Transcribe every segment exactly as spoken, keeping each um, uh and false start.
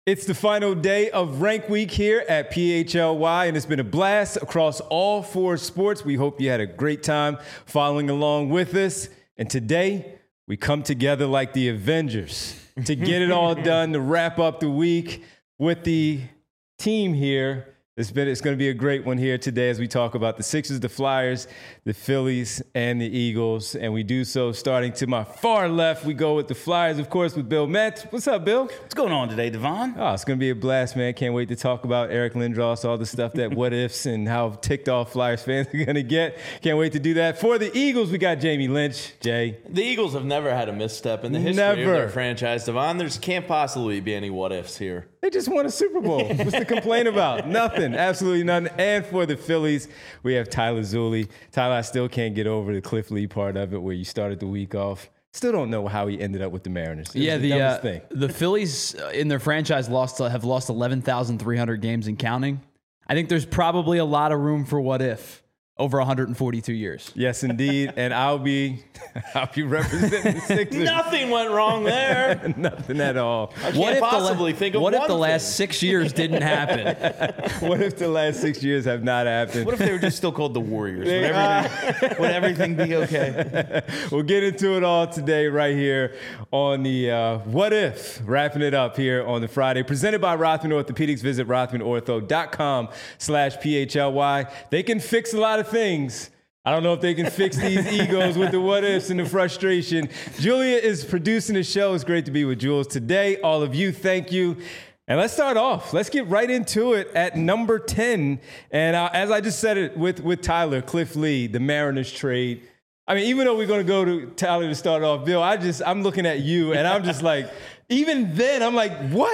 It's the final day of Rank Week here at P H L Y, and it's been a blast across all four sports. We hope you had a great time following along with us. And today, we come together like the Avengers to get it all done, to wrap up the week with the team here. It's been, it's going to be a great one here today as we talk about the Sixers, the Flyers, the Phillies, and the Eagles. And we do so starting to my far left. We go with the Flyers, of course, with Bill Metz. What's up, Bill? What's going on today, Devon? Oh, it's going to be a blast, man. Can't wait to talk about Eric Lindros, all the stuff that what ifs and how ticked off Flyers fans are going to get. Can't wait to do that. For the Eagles, we got Jamie Lynch. Jay. The Eagles have never had a misstep in the history Never. of their franchise, Devon. There can't possibly be any what ifs here. They just won a Super Bowl. What's to complain about? Nothing. Absolutely nothing. And for the Phillies, we have Tyler Zulli. Tyler, I still can't get over the Cliff Lee part of it where you started the week off. Still don't know how he ended up with the Mariners. It yeah, the, the dumbest uh, thing. the Phillies uh, in their franchise lost have lost eleven thousand three hundred games and counting. I think there's probably a lot of room for what if over one hundred forty-two years. Yes, indeed. And I'll be I'll be representing the Sixers. Nothing went wrong there. Nothing at all. I can't What if possibly the, think of What one if the thing. last six years didn't happen? What if the last six years have not happened? What if they were just still called the Warriors? Would everything, would everything be okay? We'll get into it all today right here on the uh, What If, wrapping it up here on the Friday. Presented by Rothman Orthopedics. Visit rothman ortho dot com slash P H L Y. They can fix a lot of things. I don't know if they can fix these egos with the what ifs and the frustration. Julia is producing the show. It's great to be with Jules today. All of you, thank you. And let's start off. Let's get right into it at number ten. And uh, as I just said it with, with Tyler, Cliff Lee, the Mariners trade. I mean, even though we're going to go to Tyler to start off, Bill, I just, I'm looking at you and I'm just like, even then, I'm like, what?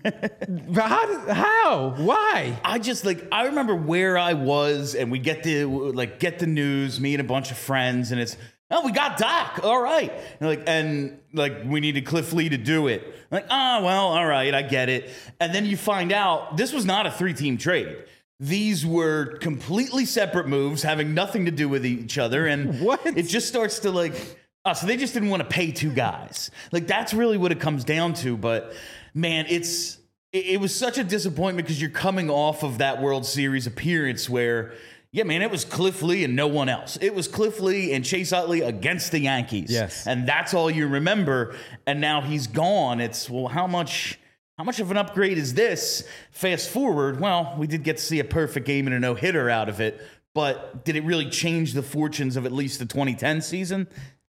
how, how? Why? I just like I remember where I was, and we get the like get the news, me and a bunch of friends, and it's oh we got Doc, all right, and like and like we needed Cliff Lee to do it. I'm like oh well, all right, I get it, and then you find out this was not a three-team trade. These were completely separate moves, having nothing to do with each other, and What? it just starts to like. Oh, so they just didn't want to pay two guys. Like, that's really what it comes down to. But, man, it's it, it was such a disappointment because you're coming off of that World Series appearance where, yeah, man, it was Cliff Lee and no one else. It was Cliff Lee and Chase Utley against the Yankees. Yes. And that's all you remember. And now he's gone. It's, well, how much... How much of an upgrade is this? Fast forward, well, we did get to see a perfect game and a no-hitter out of it. But did it really change the fortunes of at least the twenty ten season?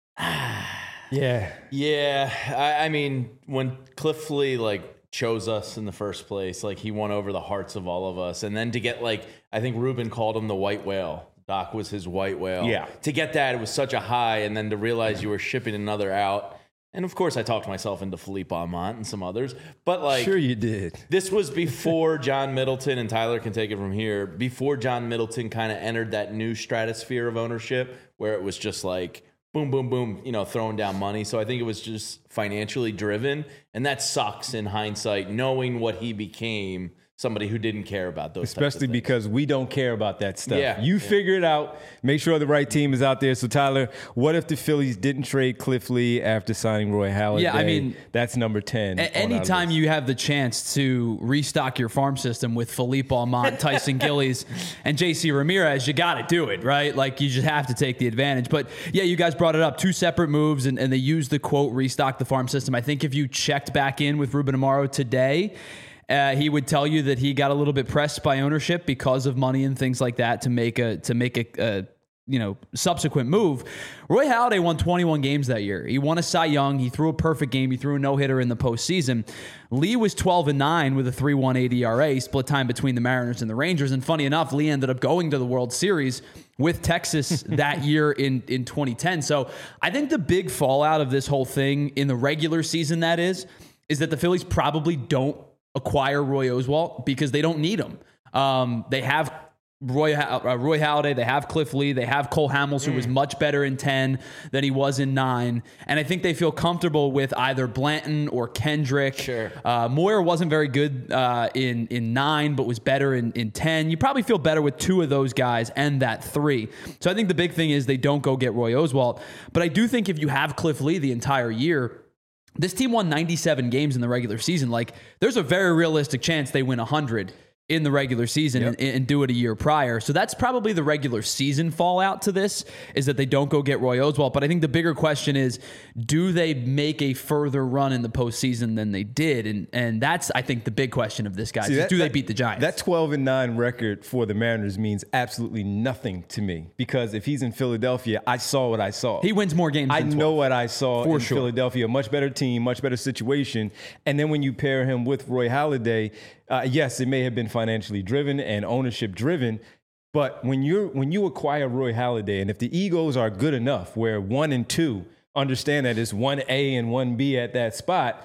Yeah. Yeah, I, I mean, when Cliff Lee, like, chose us in the first place, like, he won over the hearts of all of us. And then to get, like, I think Ruben called him the white whale. Doc was his white whale. Yeah. To get that, it was such a high, and then to realize you were shipping another out. And, of course, I talked myself into Philippe Almont and some others. But, like... Sure you did. This was before John Middleton, and Tyler can take it from here, before John Middleton kind of entered that new stratosphere of ownership where it was just like... boom, boom, boom, you know, throwing down money. So I think it was just financially driven. And that sucks in hindsight, knowing what he became, somebody who didn't care about those Especially types of things. because we don't care about that stuff. Yeah, you yeah. figure it out. Make sure the right team is out there. So, Tyler, what if the Phillies didn't trade Cliff Lee after signing Roy Halladay? Yeah, I mean, that's number ten. A- anytime you have the chance to restock your farm system with Philippe Almont, Tyson Gillies, and J C Ramirez, you got to do it, right? Like, you just have to take the advantage. But, yeah, you guys brought it up. Two separate moves, and, and they used the quote, restock the farm system. I think if you checked back in with Ruben Amaro today, Uh, he would tell you that he got a little bit pressed by ownership because of money and things like that to make a to make a, a you know subsequent move. Roy Halladay won twenty-one games that year. He won a Cy Young. He threw a perfect game. He threw a no hitter in the postseason. Lee was twelve and nine with a three point one eight E R A, split time between the Mariners and the Rangers. And funny enough, Lee ended up going to the World Series with Texas that year in in twenty ten. So I think the big fallout of this whole thing in the regular season that is is that the Phillies probably don't acquire Roy Oswalt because they don't need him. Um, they have Roy uh, Roy Halladay, they have Cliff Lee, they have Cole Hamels, who mm. was much better in ten than he was in nine, and I think they feel comfortable with either Blanton or Kendrick. Sure. Uh, Moyer wasn't very good uh, in in nine, but was better in in ten. You probably feel better with two of those guys and that three. So I think the big thing is they don't go get Roy Oswalt, but I do think if you have Cliff Lee the entire year, this team won ninety-seven games in the regular season. Like, there's a very realistic chance they win one hundred in the regular season Yep. and, and do it a year prior. So that's probably the regular season fallout to this, is that they don't go get Roy Oswalt. But I think the bigger question is, do they make a further run in the postseason than they did? And and that's, I think, the big question of this, guys. See, is that- do they that- beat the Giants? That twelve and nine record for the Mariners means absolutely nothing to me, because if he's in Philadelphia, I saw what I saw. He wins more games I than know twelve. what I saw For in sure. Philadelphia. Much better team, much better situation. And then when you pair him with Roy Halladay, uh, yes, it may have been financially driven and ownership driven, but when you're when you acquire Roy Halladay, and if the egos are good enough where one and two understand that it's one A and one B at that spot,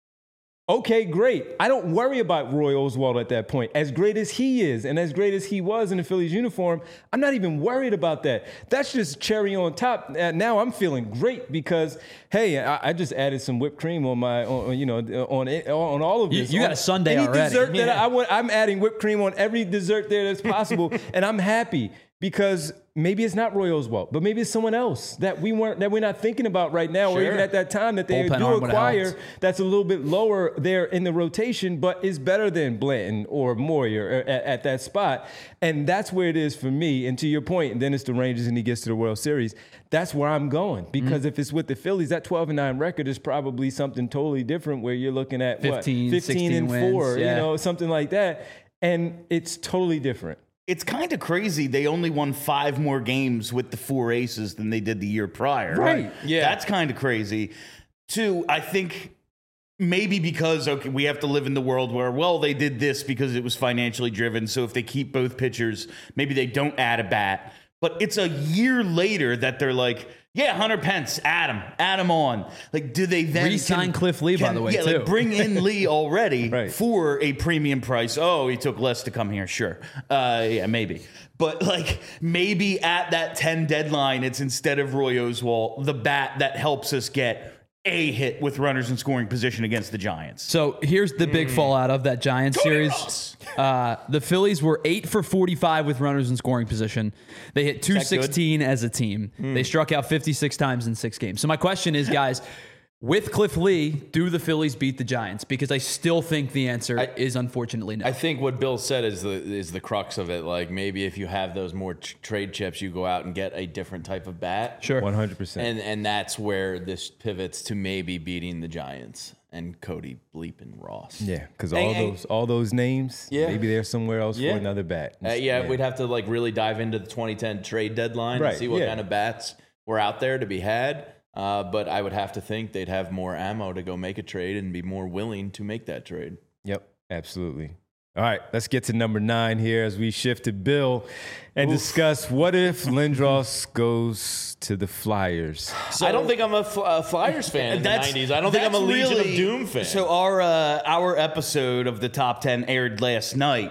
okay, great. I don't worry about Roy Oswalt at that point. As great as he is and as great as he was in the Phillies uniform, I'm not even worried about that. That's just cherry on top. Uh, now I'm feeling great because, hey, I, I just added some whipped cream on my, on, you know, on it- on all of You- this. you got On a sundae any already. Dessert that Yeah. I want, I'm adding whipped cream on every dessert there that's possible, and I'm happy. Because maybe it's not Roy Oswalt, but maybe it's someone else that we weren't that we're not thinking about right now, or Sure. even at that time that they Bullpen do arm would've acquire. helped. That's a little bit lower there in the rotation, but is better than Blanton or Moyer at, at that spot. And that's where it is for me. And to your point, and then it's the Rangers and he gets to the World Series. That's where I'm going. Because Mm-hmm. if it's with the Phillies, that twelve and nine record is probably something totally different, where you're looking at fifteen, what, fifteen and sixteen four, wins, you yeah. know, something like that. And it's totally different. It's kind of crazy. They only won five more games with the four aces than they did the year prior. Right. Yeah. That's kind of crazy. Two, I think maybe because, okay, we have to live in the world where, well, they did this because it was financially driven. So if they keep both pitchers, maybe they don't add a bat. But it's a year later that they're like, yeah, Hunter Pence, add him, add him on. Like, do they then Re-sign Cliff Lee, by the way, yeah, too. like bring in Lee already Right. for a premium price? Oh, he took less to come here. Sure, uh, yeah, maybe. But like maybe at that ten deadline, it's instead of Roy Oswalt, the bat that helps us get a hit with runners in scoring position against the Giants. So here's the big fallout of that Giants series. Uh, the Phillies were eight for forty-five with runners in scoring position. They hit two sixteen as a team. They struck out fifty-six times in six games. So my question is, guys, with Cliff Lee, do the Phillies beat the Giants? Because I still think the answer I- is unfortunately no. I think what Bill said is the is the crux of it. Like maybe if you have those more t- trade chips, you go out and get a different type of bat. Sure. one hundred percent. And and that's where this pivots to maybe beating the Giants and Cody Bleepin Ross. Yeah, because all And- and- those all those names, Yeah. maybe they're somewhere else Yeah. for another bat. Uh, yeah, we'd have to like really dive into the twenty ten trade deadline Right, and see what yeah. kind of bats were out there to be had. Uh, but I would have to think they'd have more ammo to go make a trade and be more willing to make that trade. Yep, absolutely. All right, let's get to number nine here as we shift to Bill and discuss what if Lindros goes to the Flyers. I don't think I'm a, Fl- a Flyers fan in the nineties. I don't think I'm a that's Legion really- of Doom fan. So our uh, our episode of the top ten aired last night,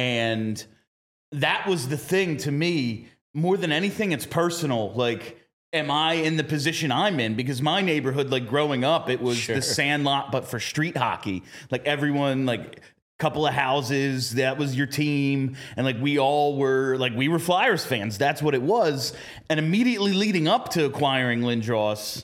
and that was the thing to me more than anything. It's personal. Like, am I in the position I'm in? Because my neighborhood, like growing up, it was Sure. the Sandlot, but for street hockey. Like everyone, like. Couple of houses, that was your team, and like we all were like we were Flyers fans. That's what it was. And immediately leading up to acquiring Lindros,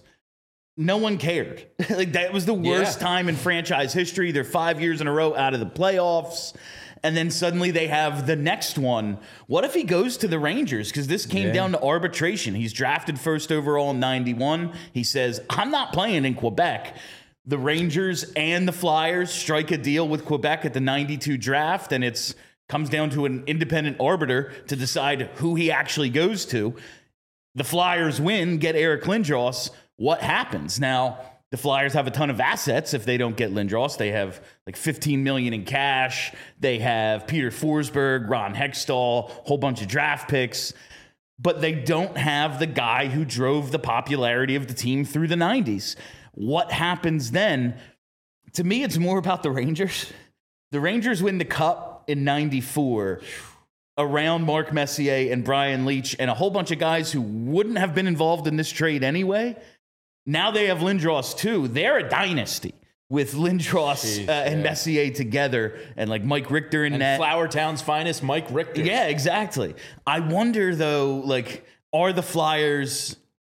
no one cared. Like that was the worst Yeah. time in franchise history. They're five years in a row out of the playoffs. And then suddenly they have the next one. What if he goes to the Rangers? Because this came Yeah. down to arbitration. He's drafted first overall in ninety-one. He says, I'm not playing in Quebec. The Rangers and the Flyers strike a deal with Quebec at the ninety-two draft, and it's comes down to an independent arbiter to decide who he actually goes to. The Flyers win, get Eric Lindros. What happens? Now, the Flyers have a ton of assets if they don't get Lindros. They have like fifteen million dollars in cash. They have Peter Forsberg, Ron Hextall, a whole bunch of draft picks. But they don't have the guy who drove the popularity of the team through the nineties. What happens then? To me, it's more about the Rangers. The Rangers win the Cup in ninety-four around Mark Messier and Brian Leetch and a whole bunch of guys who wouldn't have been involved in this trade anyway. Now they have Lindros too. They're a dynasty with Lindros Jeez, uh, and yeah. Messier together and like Mike Richter in and net. Flower Town's finest, Mike Richter. Yeah, exactly. I wonder though, like, are the Flyers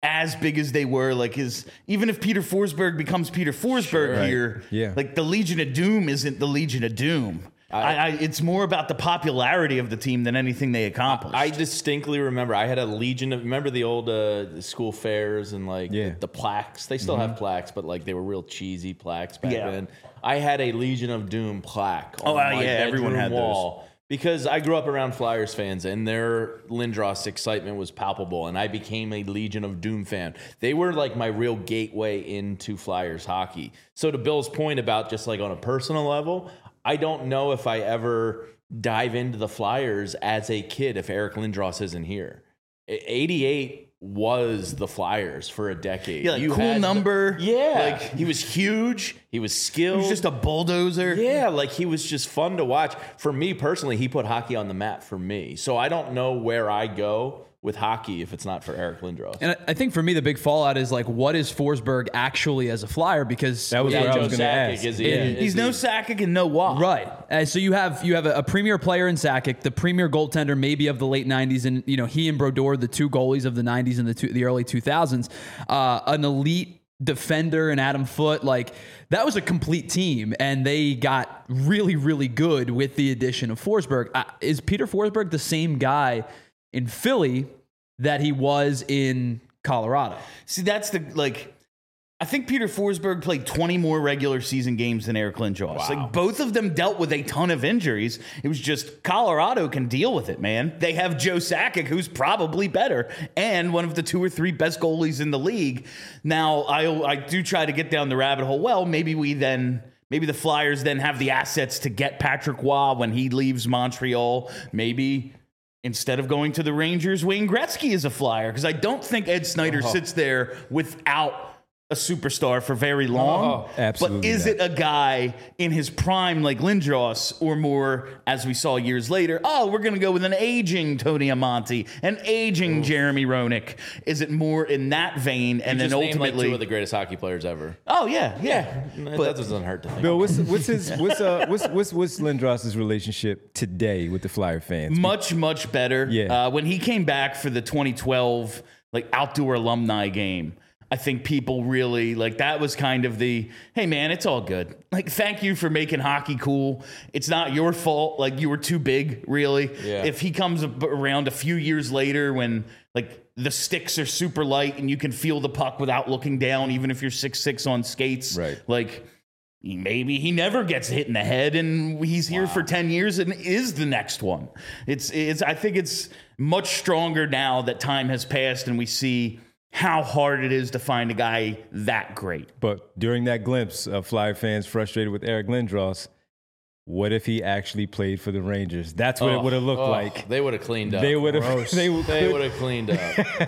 as big as they were. Like his, even if Peter Forsberg becomes Peter Forsberg Sure. here, Right. Yeah. like the Legion of Doom isn't the Legion of Doom. I, I, it's more about the popularity of the team than anything they accomplished. I distinctly remember I had a legion of remember the old uh, school fairs and like Yeah. the, the plaques. They still have plaques, but like they were real cheesy plaques back Yeah. then. I had a Legion of Doom plaque on Oh, uh, my yeah, everyone bedroom had those. wall because I grew up around Flyers fans and their Lindros excitement was palpable, and I became a Legion of Doom fan. They were like my real gateway into Flyers hockey. So to Bill's point about just like on a personal level, I don't know if I ever dive into the Flyers as a kid if Eric Lindros isn't here. eighty-eight was the Flyers for a decade. yeah, like, cool had- number. Yeah. Like, he was huge. He was he skilled. was just a bulldozer. Yeah, like he was just fun to watch. For me personally, he put hockey on the map for me. So I don't know where I go with hockey if it's not for Eric Lindros. And I- I think for me, the big fallout is like, what is Forsberg actually as a Flyer? Because That was yeah, what I Joe was going to Sakic, ask. is he? Yeah. is He's he- no Sakic and no Waugh. right. Uh, so you have you have a, a premier player in Sakic, the premier goaltender maybe of the late nineties, and you know he and Brodeur, the two goalies of the nineties and the two, the early two thousands, uh, an elite defender and Adam Foote. Like that was a complete team, and they got really really good with the addition of Forsberg. Uh, is Peter Forsberg the same guy in Philly that he was in Colorado? See, that's the, like, I think Peter Forsberg played twenty more regular season games than Eric Lindros. Like, both of them dealt with a ton of injuries. It was just Colorado can deal with it, man. They have Joe Sakic, who's probably better, and one of the two or three best goalies in the league. Now, I, I do try to get down the rabbit hole. Well, maybe we then... Maybe the Flyers then have the assets to get Patrick Waugh when he leaves Montreal. Maybe... Instead of going to the Rangers, Wayne Gretzky is a Flyer, because I don't think Ed Snyder Oh. sits there without a superstar for very long. Oh, absolutely But is not. it a guy in his prime like Lindros, or more, as we saw years later, oh, we're going to go with an aging Tony Amonte, an aging Jeremy Roenick? Is it more in that vein? And Just then named like ultimately, two of the greatest hockey players ever. oh yeah, yeah. That But doesn't hurt to think. Bill, what's what's his what's uh what's what's what's Lindros's relationship today with the Flyer fans? much much better. Yeah. Uh, when he came back for the twenty twelve like outdoor alumni game, I think people really like that was kind of the, hey man, it's all good. Like, thank you for making hockey cool. It's not your fault. Like, you were too big, really. Yeah. If he comes ab- around a few years later when like the sticks are super light and you can feel the puck without looking down, even if you're six six on skates, Right. like maybe he never gets hit in the head and he's here for ten years and is the next one. It's it's I think it's much stronger now that time has passed and we see how hard it is to find a guy that great. But during that glimpse of Flyer fans frustrated with Eric Lindros, what if he actually played for the Rangers? That's what it would have looked Oh, like. They would have cleaned up. They would have. They would. They would have cleaned up.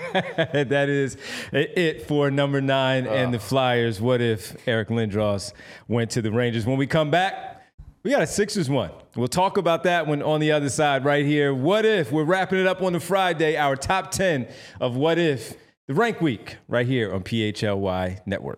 That is it for number nine and the Flyers. What if Eric Lindros went to the Rangers? When we come back, we got a Sixers one. We'll talk about that one on the other side right here. What if? We're wrapping it up on the Friday, our top ten of what if, the Rank Week, right here on P H L Y Network.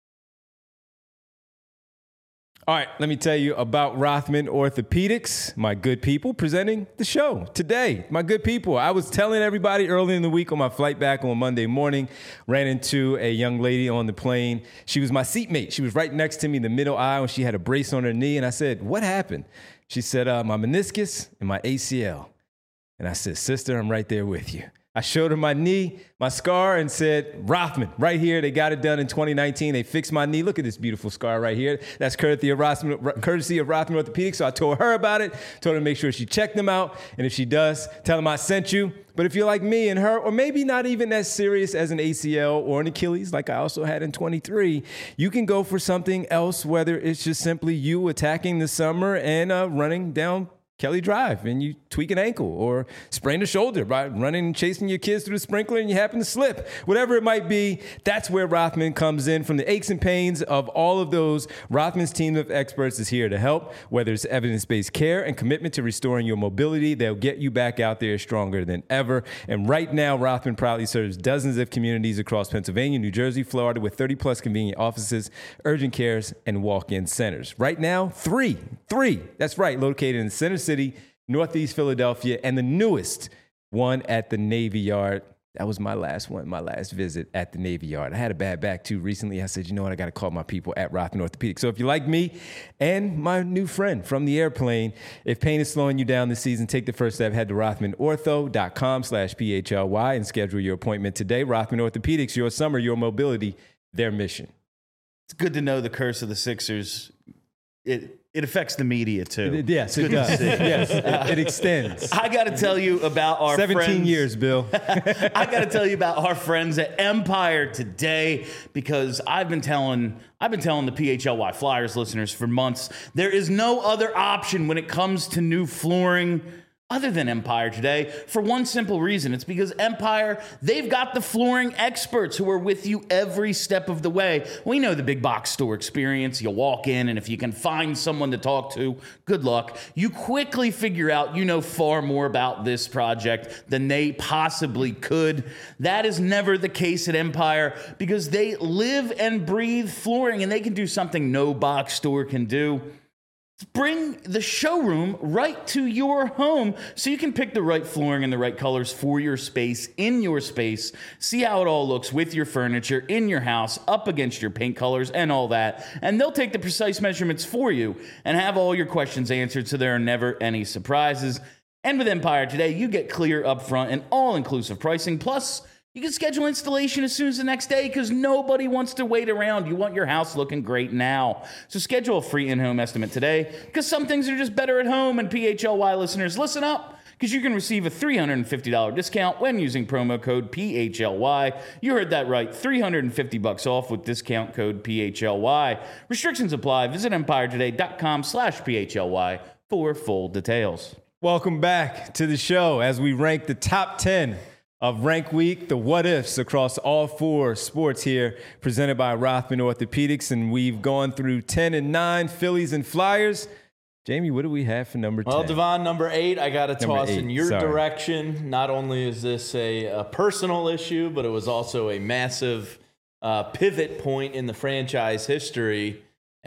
All right, let me tell you about Rothman Orthopedics, my good people, presenting the show today. My good people, I was telling everybody early in the week on my flight back on Monday morning, ran into a young lady on the plane. She was my seatmate. She was right next to me in the middle aisle, and she had a brace on her knee. And I said, what happened? She said, uh, my meniscus and my A C L. And I said, sister, I'm right there with you. I showed her my knee, my scar, and said, Rothman, right here. They got it done in twenty nineteen. They fixed my knee. Look at this beautiful scar right here. That's courtesy of Rothman, courtesy of Rothman Orthopedics. So I told her about it, told her to make sure she checked them out. And if she does, tell them I sent you. But if you're like me and her, or maybe not even as serious as an A C L or an Achilles, like I also had in twenty-three, you can go for something else, whether it's just simply you attacking the summer and uh, running down Kelly Drive and you tweak an ankle or sprain a shoulder by running and chasing your kids through the sprinkler and you happen to slip. Whatever it might be, that's where Rothman comes in. From the aches and pains of all of those, Rothman's team of experts is here to help. Whether it's evidence-based care and commitment to restoring your mobility, they'll get you back out there stronger than ever. And right now, Rothman proudly serves dozens of communities across Pennsylvania, New Jersey, Florida, with thirty plus convenient offices, urgent cares, and walk-in centers. Right now, three, three, that's right, located in Center City, Northeast Philadelphia, and the newest one at the Navy Yard. That was my last one, my last visit at the Navy Yard. I had a bad back too recently. I said, you know what, I got to call my people at Rothman Orthopedics. So if you like me and my new friend from the airplane, if pain is slowing you down this season, take the first step. Head to rothmanortho.com slash P-H-L-Y and schedule your appointment today. Rothman Orthopedics, your summer, your mobility, their mission. It's good to know the curse of the Sixers. It it affects the media too. It, yes, it does. Yes, it, it extends. I got to tell you about our seventeen friends. years, Bill. I got to tell you about our friends at Empire today, because I've been telling I've been telling the P H L Y Flyers listeners for months, there is no other option when it comes to new flooring other than Empire today, for one simple reason. It's because Empire, they've got the flooring experts who are with you every step of the way. We know the big box store experience. You walk in, and if you can find someone to talk to, good luck. You quickly figure out you know far more about this project than they possibly could. That is never the case at Empire, because they live and breathe flooring, and they can do something no box store can do. Bring the showroom right to your home so you can pick the right flooring and the right colors for your space, in your space. See how it all looks with your furniture, in your house, up against your paint colors and all that. And they'll take the precise measurements for you and have all your questions answered so there are never any surprises. And with Empire today, you get clear, upfront, and all-inclusive pricing. Plus, you can schedule installation as soon as the next day, because nobody wants to wait around. You want your house looking great now. So schedule a free in-home estimate today, because some things are just better at home. And P H L Y listeners, listen up, because you can receive a three hundred fifty dollars discount when using promo code P H L Y. You heard that right, three hundred fifty bucks off with discount code P H L Y. Restrictions apply. Visit empiretoday.com slash PHLY for full details. Welcome back to the show as we rank the top ten of Rank Week, the what ifs across all four sports here, presented by Rothman Orthopedics. And we've gone through ten and nine, Phillies and Flyers. Jamie, what do we have for number ten? Well, Devon, number eight, I got to toss eight, in your sorry. direction. Not only is this a, a personal issue, but it was also a massive uh, pivot point in the franchise history.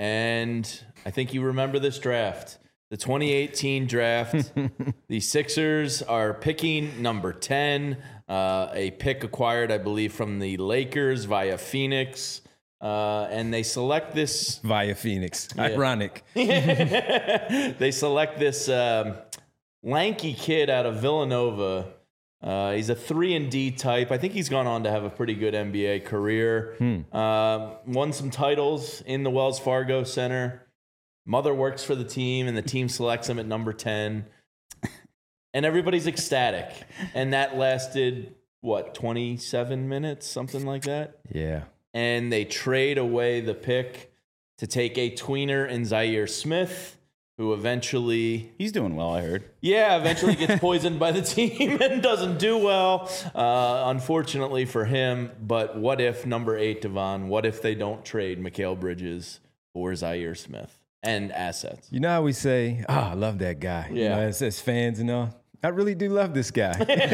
And I think you remember this draft. The twenty eighteen draft, the Sixers are picking number ten, uh, a pick acquired, I believe, from the Lakers via Phoenix. Uh, and they select this. Via Phoenix. Yeah. Ironic. They select this um, lanky kid out of Villanova. Uh, he's a three and D type. I think he's gone on to have a pretty good N B A career. Hmm. Uh, won some titles in the Wells Fargo Center. Mother works for the team, and the team selects him at number ten. And everybody's ecstatic. And that lasted, what, twenty-seven minutes? Something like that? Yeah. And they trade away the pick to take a tweener in Zaire Smith, who eventually... He's doing well, I heard. Yeah, eventually gets poisoned by the team and doesn't do well, uh, unfortunately for him. But what if, number eight, Devon, what if they don't trade Mikal Bridges for Zaire Smith? And assets. You know how we say, oh, I love that guy. Yeah. You know, as, as fans and all. I really do love this guy.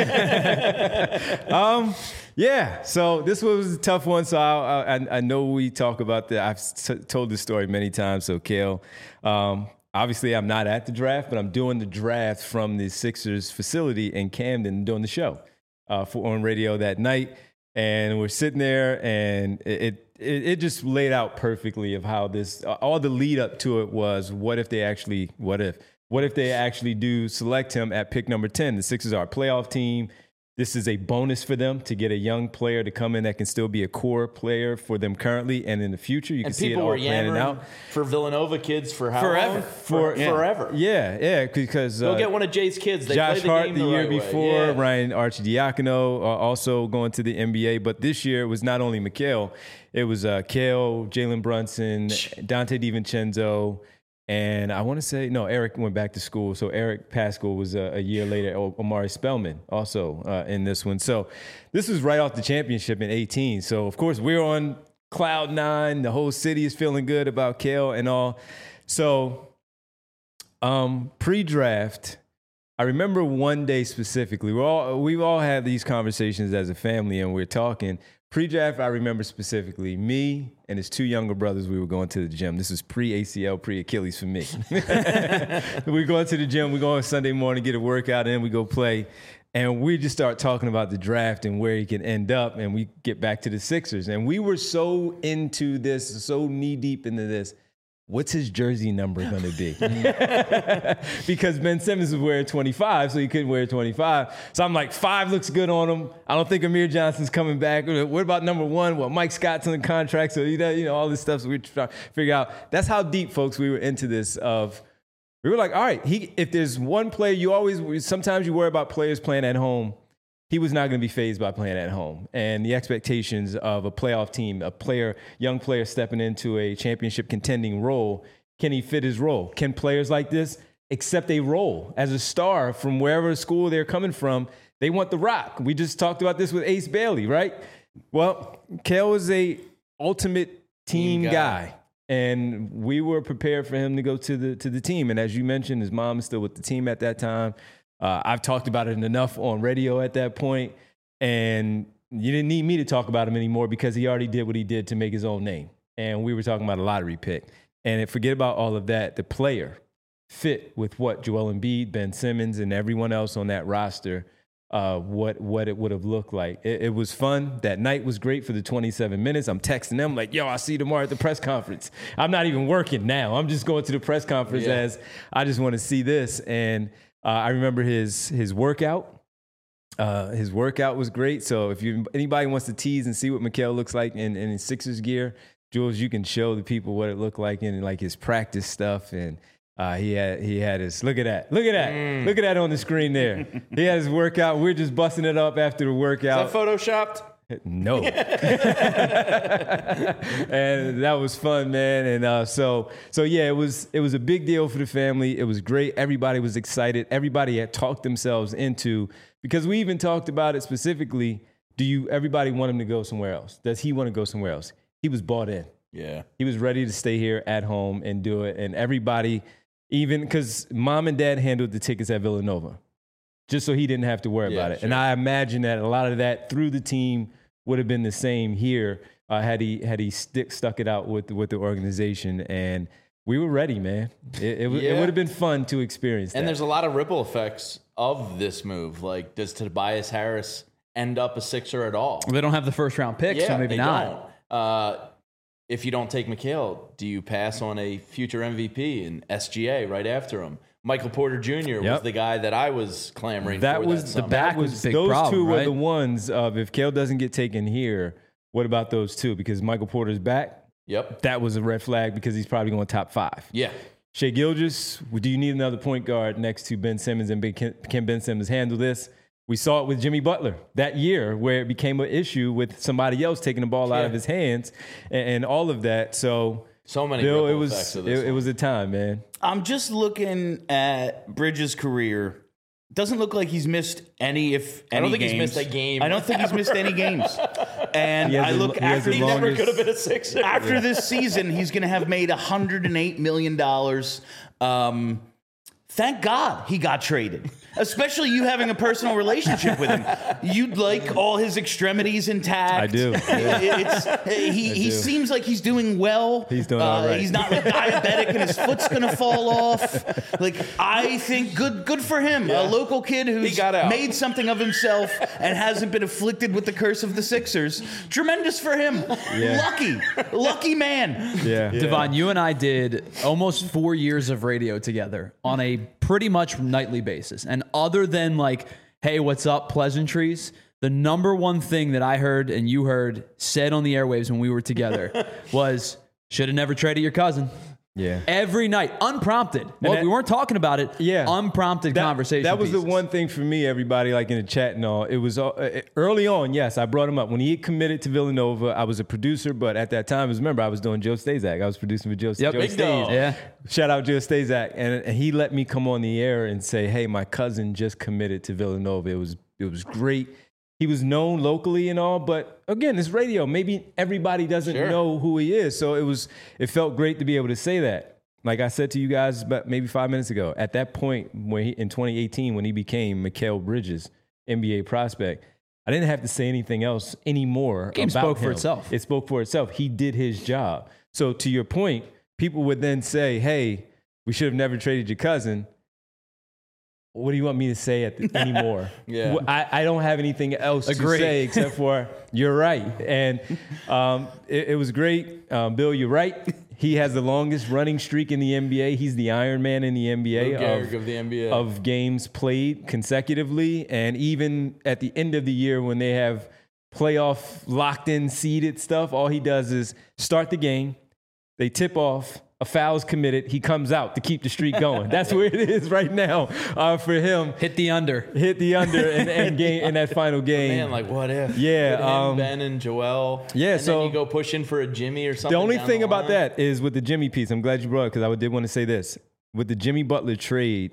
um, yeah, so this was a tough one. So I, I, I know we talk about that. I've t- told this story many times. So, Kale, um, obviously I'm not at the draft, but I'm doing the draft from the Sixers facility in Camden, doing the show uh, for on radio that night. And we're sitting there, and it, it It, it just laid out perfectly of how this, all the lead up to it was, what if they actually, what if, what if they actually do select him at pick number ten? The Sixers are a playoff team. This is a bonus for them to get a young player to come in that can still be a core player for them currently and in the future. You can And see it people all were planning yammering out. for Villanova kids for how Forever. long? For, For, Forever. Yeah, yeah, because Go uh, get one of Jay's kids. They Josh play the Hart game the, the, year right way. before, Yeah. Ryan Arcidiacono uh, also going to the N B A. But this year it was not only Mikal, it was uh, Kale, Jalen Brunson, Dante DiVincenzo, and I want to say, no, Eric went back to school. So Eric Pascal was uh, a year later. O- Omari Spellman also uh, in this one. So this was right off the championship in eighteen. So, of course, we're on cloud nine. The whole city is feeling good about Kale and all. So um, pre-draft, I remember one day specifically. We all we've all had these conversations as a family, and we're talking. Pre-draft, I remember specifically me and his two younger brothers. We were going to the gym. This is pre-A C L, pre-Achilles for me. We're going to the gym. We go on Sunday morning, get a workout in. We go play. And we just start talking about the draft and where he can end up, and we get back to the Sixers. And we were so into this, so knee deep into this. What's his jersey number going to be? Because Ben Simmons was wearing twenty-five, so he couldn't wear twenty-five. So I'm like, five looks good on him. I don't think Amir Johnson's coming back. What about number one? Well, Mike Scott's on the contract, so you know, you know all this stuff. So we're trying to figure out. That's how deep, folks, we were into this. Of we were like, all right, he. If there's one player, you always sometimes you worry about players playing at home. He was not going to be fazed by playing at home. And the expectations of a playoff team, a player, young player stepping into a championship contending role, can he fit his role? Can players like this accept a role as a star from wherever school they're coming from? They want the rock. We just talked about this with Ace Bailey, right? Well, Kale was a ultimate team, team guy. guy. And we were prepared for him to go to the to the team. And as you mentioned, his mom is still with the team at that time. Uh, I've talked about it enough on radio at that point, and you didn't need me to talk about him anymore because he already did what he did to make his own name. And we were talking about a lottery pick. And forget about all of that. The player fit with what Joel Embiid, Ben Simmons, and everyone else on that roster, uh, what what it would have looked like. It, it was fun. That night was great for the twenty-seven minutes. I'm texting them like, yo, I'll see you tomorrow at the press conference. I'm not even working now. I'm just going to the press conference yeah. as I just want to see this. And Uh, I remember his his workout. Uh, his workout was great. So if you anybody wants to tease and see what Mikal looks like in, in his Sixers gear, Jules, you can show the people what it looked like in like his practice stuff. And uh, he had he had his look at that, look at that, mm. look at that on the screen there. He had his workout. We're just busting it up after the workout. Is that photoshopped? No. And that was fun, man. And uh, so, so yeah, it was it was a big deal for the family. It was great. Everybody was excited. Everybody had talked themselves into, because we even talked about it specifically. Do you? Everybody want him to go somewhere else? Does he want to go somewhere else? He was bought in. Yeah. He was ready to stay here at home and do it. And everybody, even because mom and dad handled the tickets at Villanova, just so he didn't have to worry yeah, about it. Sure. And I imagine that a lot of that through the team would have been the same here uh, had he had he stick, stuck it out with with the organization. And we were ready, man. It, it, yeah. it would have been fun to experience that. And there's a lot of ripple effects of this move. Like, does Tobias Harris end up a Sixer at all? They don't have the first round pick, yeah, so maybe they not. Don't. Uh, if you don't take Mikal, do you pass on a future M V P and S G A right after him? Michael Porter Junior Yep. was the guy that I was clamoring that for. Was that the summer. back That was was the big those problem, two right? were the ones of if Kale doesn't get taken here, what about those two? Because Michael Porter's back. Yep. That was a red flag because he's probably going top five. Yeah. Shai Gilgeous, do you need another point guard next to Ben Simmons, and can Ben Simmons handle this? We saw it with Jimmy Butler that year where it became an issue with somebody else taking the ball out yeah. of his hands and, and all of that. So, so many Bill, it ripple was effects of this it, it was a time, man. I'm just looking at Bridges' career. Doesn't look like he's missed any, if any I don't think games. he's missed a game. I don't think he's missed any games. And He has I the- look he has after the He never longest- could have been a Sixer. after this season, he's going to have made one hundred eight million dollars. Um, thank God he got traded. Especially you having a personal relationship with him. You'd like all his extremities intact. I do. Yeah. It's, he he do. seems like he's doing well. He's doing uh, all right. He's not like diabetic and his foot's going to fall off. Like, I think good good for him. Yeah. A local kid who's He got out. made something of himself and hasn't been afflicted with the curse of the Sixers. Tremendous for him. Yeah. Lucky. Lucky man. Yeah. Devon, you and I did almost four years of radio together on a pretty much nightly basis. And other than like, hey, what's up, pleasantries, the number one thing that I heard and you heard said on the airwaves when we were together was, should have never traded your cousin. Yeah. Every night, unprompted. Well, that- we weren't talking about it. Yeah. Unprompted That- conversation. That was pieces. the one thing for me, everybody, like in the chat and all. It was uh, early on, yes, I brought him up. When he committed to Villanova, I was a producer, but at that time, remember, I was doing Joe Stazak. I was producing with Joe, Yep. Joe Big Staz. dog. Yeah. Shout out Joe Stazak. And, and he let me come on the air and say, hey, my cousin just committed to Villanova. It was it was great. He was known locally and all, but again, it's radio. Maybe everybody doesn't Sure. know who he is. So it was it felt great to be able to say that. Like I said to you guys about maybe five minutes ago, at that point when he, in twenty eighteen, when he became Mikal Bridges, N B A prospect, I didn't have to say anything else anymore. Game about spoke for him. itself. It spoke for itself. He did his job. So to your point, people would then say, hey, we should have never traded your cousin. what do you want me to say at the, anymore? Yeah. I, I don't have anything else Agreed. to say except for you're right. And um, it, it was great. Um, Bill, you're right. He has the longest running streak in the N B A. He's the Iron Man in the N B A, Lou Gehrig of, of the N B A. of games played consecutively. And even at the end of the year when they have playoff locked in seeded stuff, all he does is start the game. They tip off. A foul's committed. He comes out to keep the streak going. That's where it is right now uh, for him. Hit the under. Hit the under and, and game in that final game. Man, like what if? Yeah, With him, um, Ben and Joel. yeah, and so- then you go pushing for a Jimmy or something. The only down thing the about line. that is with the Jimmy piece. I'm glad you brought it because I did want to say this. With the Jimmy Butler trade,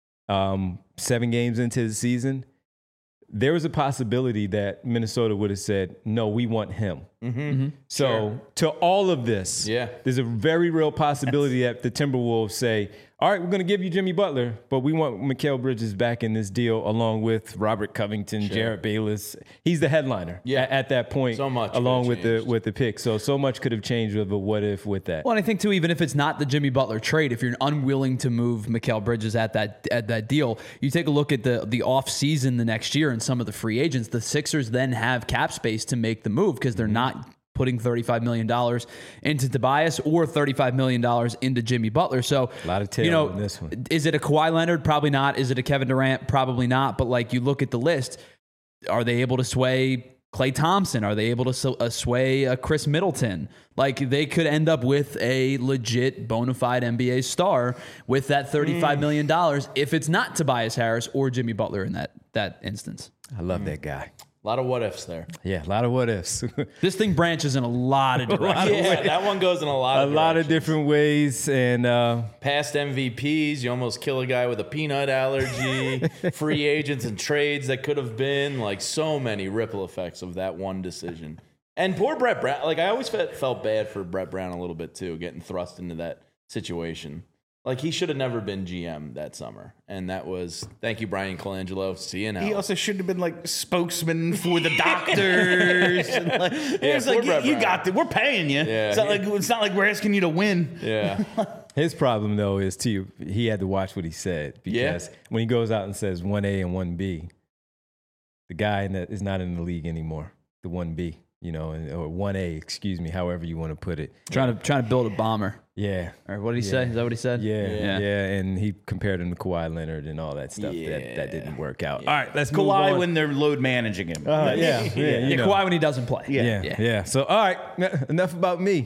um, seven games into the season, there was a possibility that Minnesota would have said, no, we want him. Mm-hmm. So Sure. to all of this, Yeah. there's a very real possibility that the Timberwolves say, all right, we're going to give you Jimmy Butler, but we want Mikal Bridges back in this deal along with Robert Covington, Jarrett Bayless. He's the headliner Yeah. at, at that point, So much along could with have the changed. with the pick. So so much could have changed with a what if with that. Well, and I think too, even if it's not the Jimmy Butler trade, if you're unwilling to move Mikal Bridges at that at that deal, you take a look at the the off season the next year and some of the free agents. The Sixers then have cap space to make the move because they're not putting thirty-five million dollars into Tobias or thirty-five million dollars into Jimmy Butler. So A lot of tail you know, in this one. is it a Kawhi Leonard? Probably not. Is it a Kevin Durant? Probably not. But like you look at the list, are they able to sway Klay Thompson? Are they able to so- uh, sway uh, Chris Middleton? Like they could end up with a legit bona fide N B A star with that thirty-five million dollars if it's not Tobias Harris or Jimmy Butler in that that instance. I love that guy. A lot of what ifs there. Yeah, a lot of what ifs. This thing branches in a lot of directions. Yeah, that one goes in a lot a of lot of directions. different ways. And uh, Past M V Ps, you almost kill a guy with a peanut allergy. Free agents and trades that could have been, like so many ripple effects of that one decision. And poor Brett Brown. Like I always felt, felt bad for Brett Brown a little bit too, getting thrust into that situation. Like he should have never been G M that summer. And that was, thank you, Brian Colangelo. See you now. He also should have been like spokesman for the doctors. and like, it's poor like, Brett you, you Brown. got it. We're paying you. Yeah. It's not like it's not like we're asking you to win. yeah. his problem, though, is too, he had to watch what he said because Yeah. when he goes out and says one A and one B, the guy in that is not in the league anymore, the one B, you know, and, or one A, excuse me, however you want to put it. Trying to trying to build a bomber. Yeah. Or what did he Yeah. say? Is that what he said? Yeah, yeah, Yeah. and he compared him to Kawhi Leonard and all that stuff. That, that didn't work out. All right, let's move Kawhi on. when they're load managing him. Uh, yeah, yeah, you Yeah, know. Kawhi when he doesn't play. Yeah, Yeah. yeah, So, all right, n- enough about me.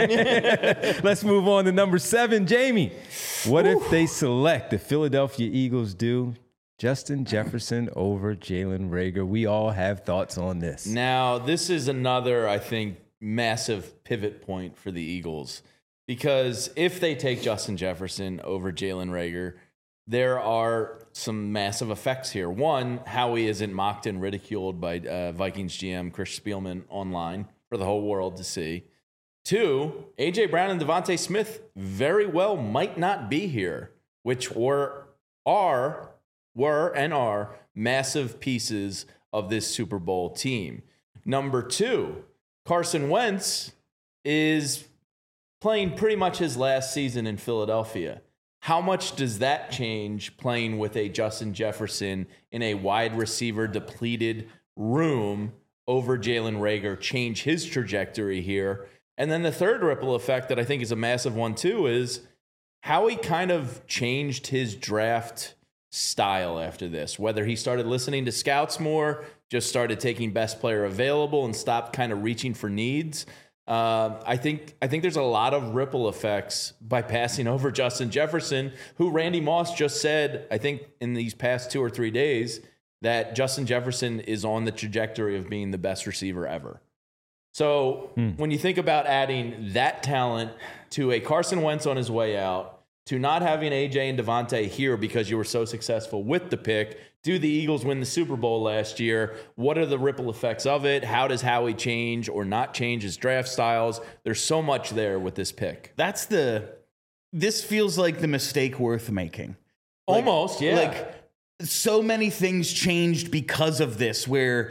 Let's move on to number seven, Jamie. What if they select the Philadelphia Eagles do Justin Jefferson over Jalen Reagor? We all have thoughts on this. Now, this is another, I think, massive pivot point for the Eagles. Because if they take Justin Jefferson over Jalen Reagor, there are some massive effects here. One, Howie isn't mocked and ridiculed by uh, Vikings G M Chris Spielman online for the whole world to see. Two, A J Brown and Devontae Smith very well might not be here, which were are were and are massive pieces of this Super Bowl team. Number two, Carson Wentz is playing pretty much his last season in Philadelphia. How much does that change playing with a Justin Jefferson in a wide receiver depleted room over Jalen Reagor, change his trajectory here? And then the third ripple effect that I think is a massive one too is how he kind of changed his draft style after this, whether he started listening to scouts more, just started taking best player available and stopped kind of reaching for needs. Uh, I think I think there's a lot of ripple effects by passing over Justin Jefferson, who Randy Moss just said, I think in these past two or three days, that Justin Jefferson is on the trajectory of being the best receiver ever. So when you think about adding that talent to a Carson Wentz on his way out, to not having A J and Devontae here because you were so successful with the pick, do the Eagles win the Super Bowl last year? What are the ripple effects of it? How does Howie change or not change his draft styles? There's so much there with this pick. That's the. This feels like the mistake worth making. Like- Almost, yeah. Like so many things changed because of this. Where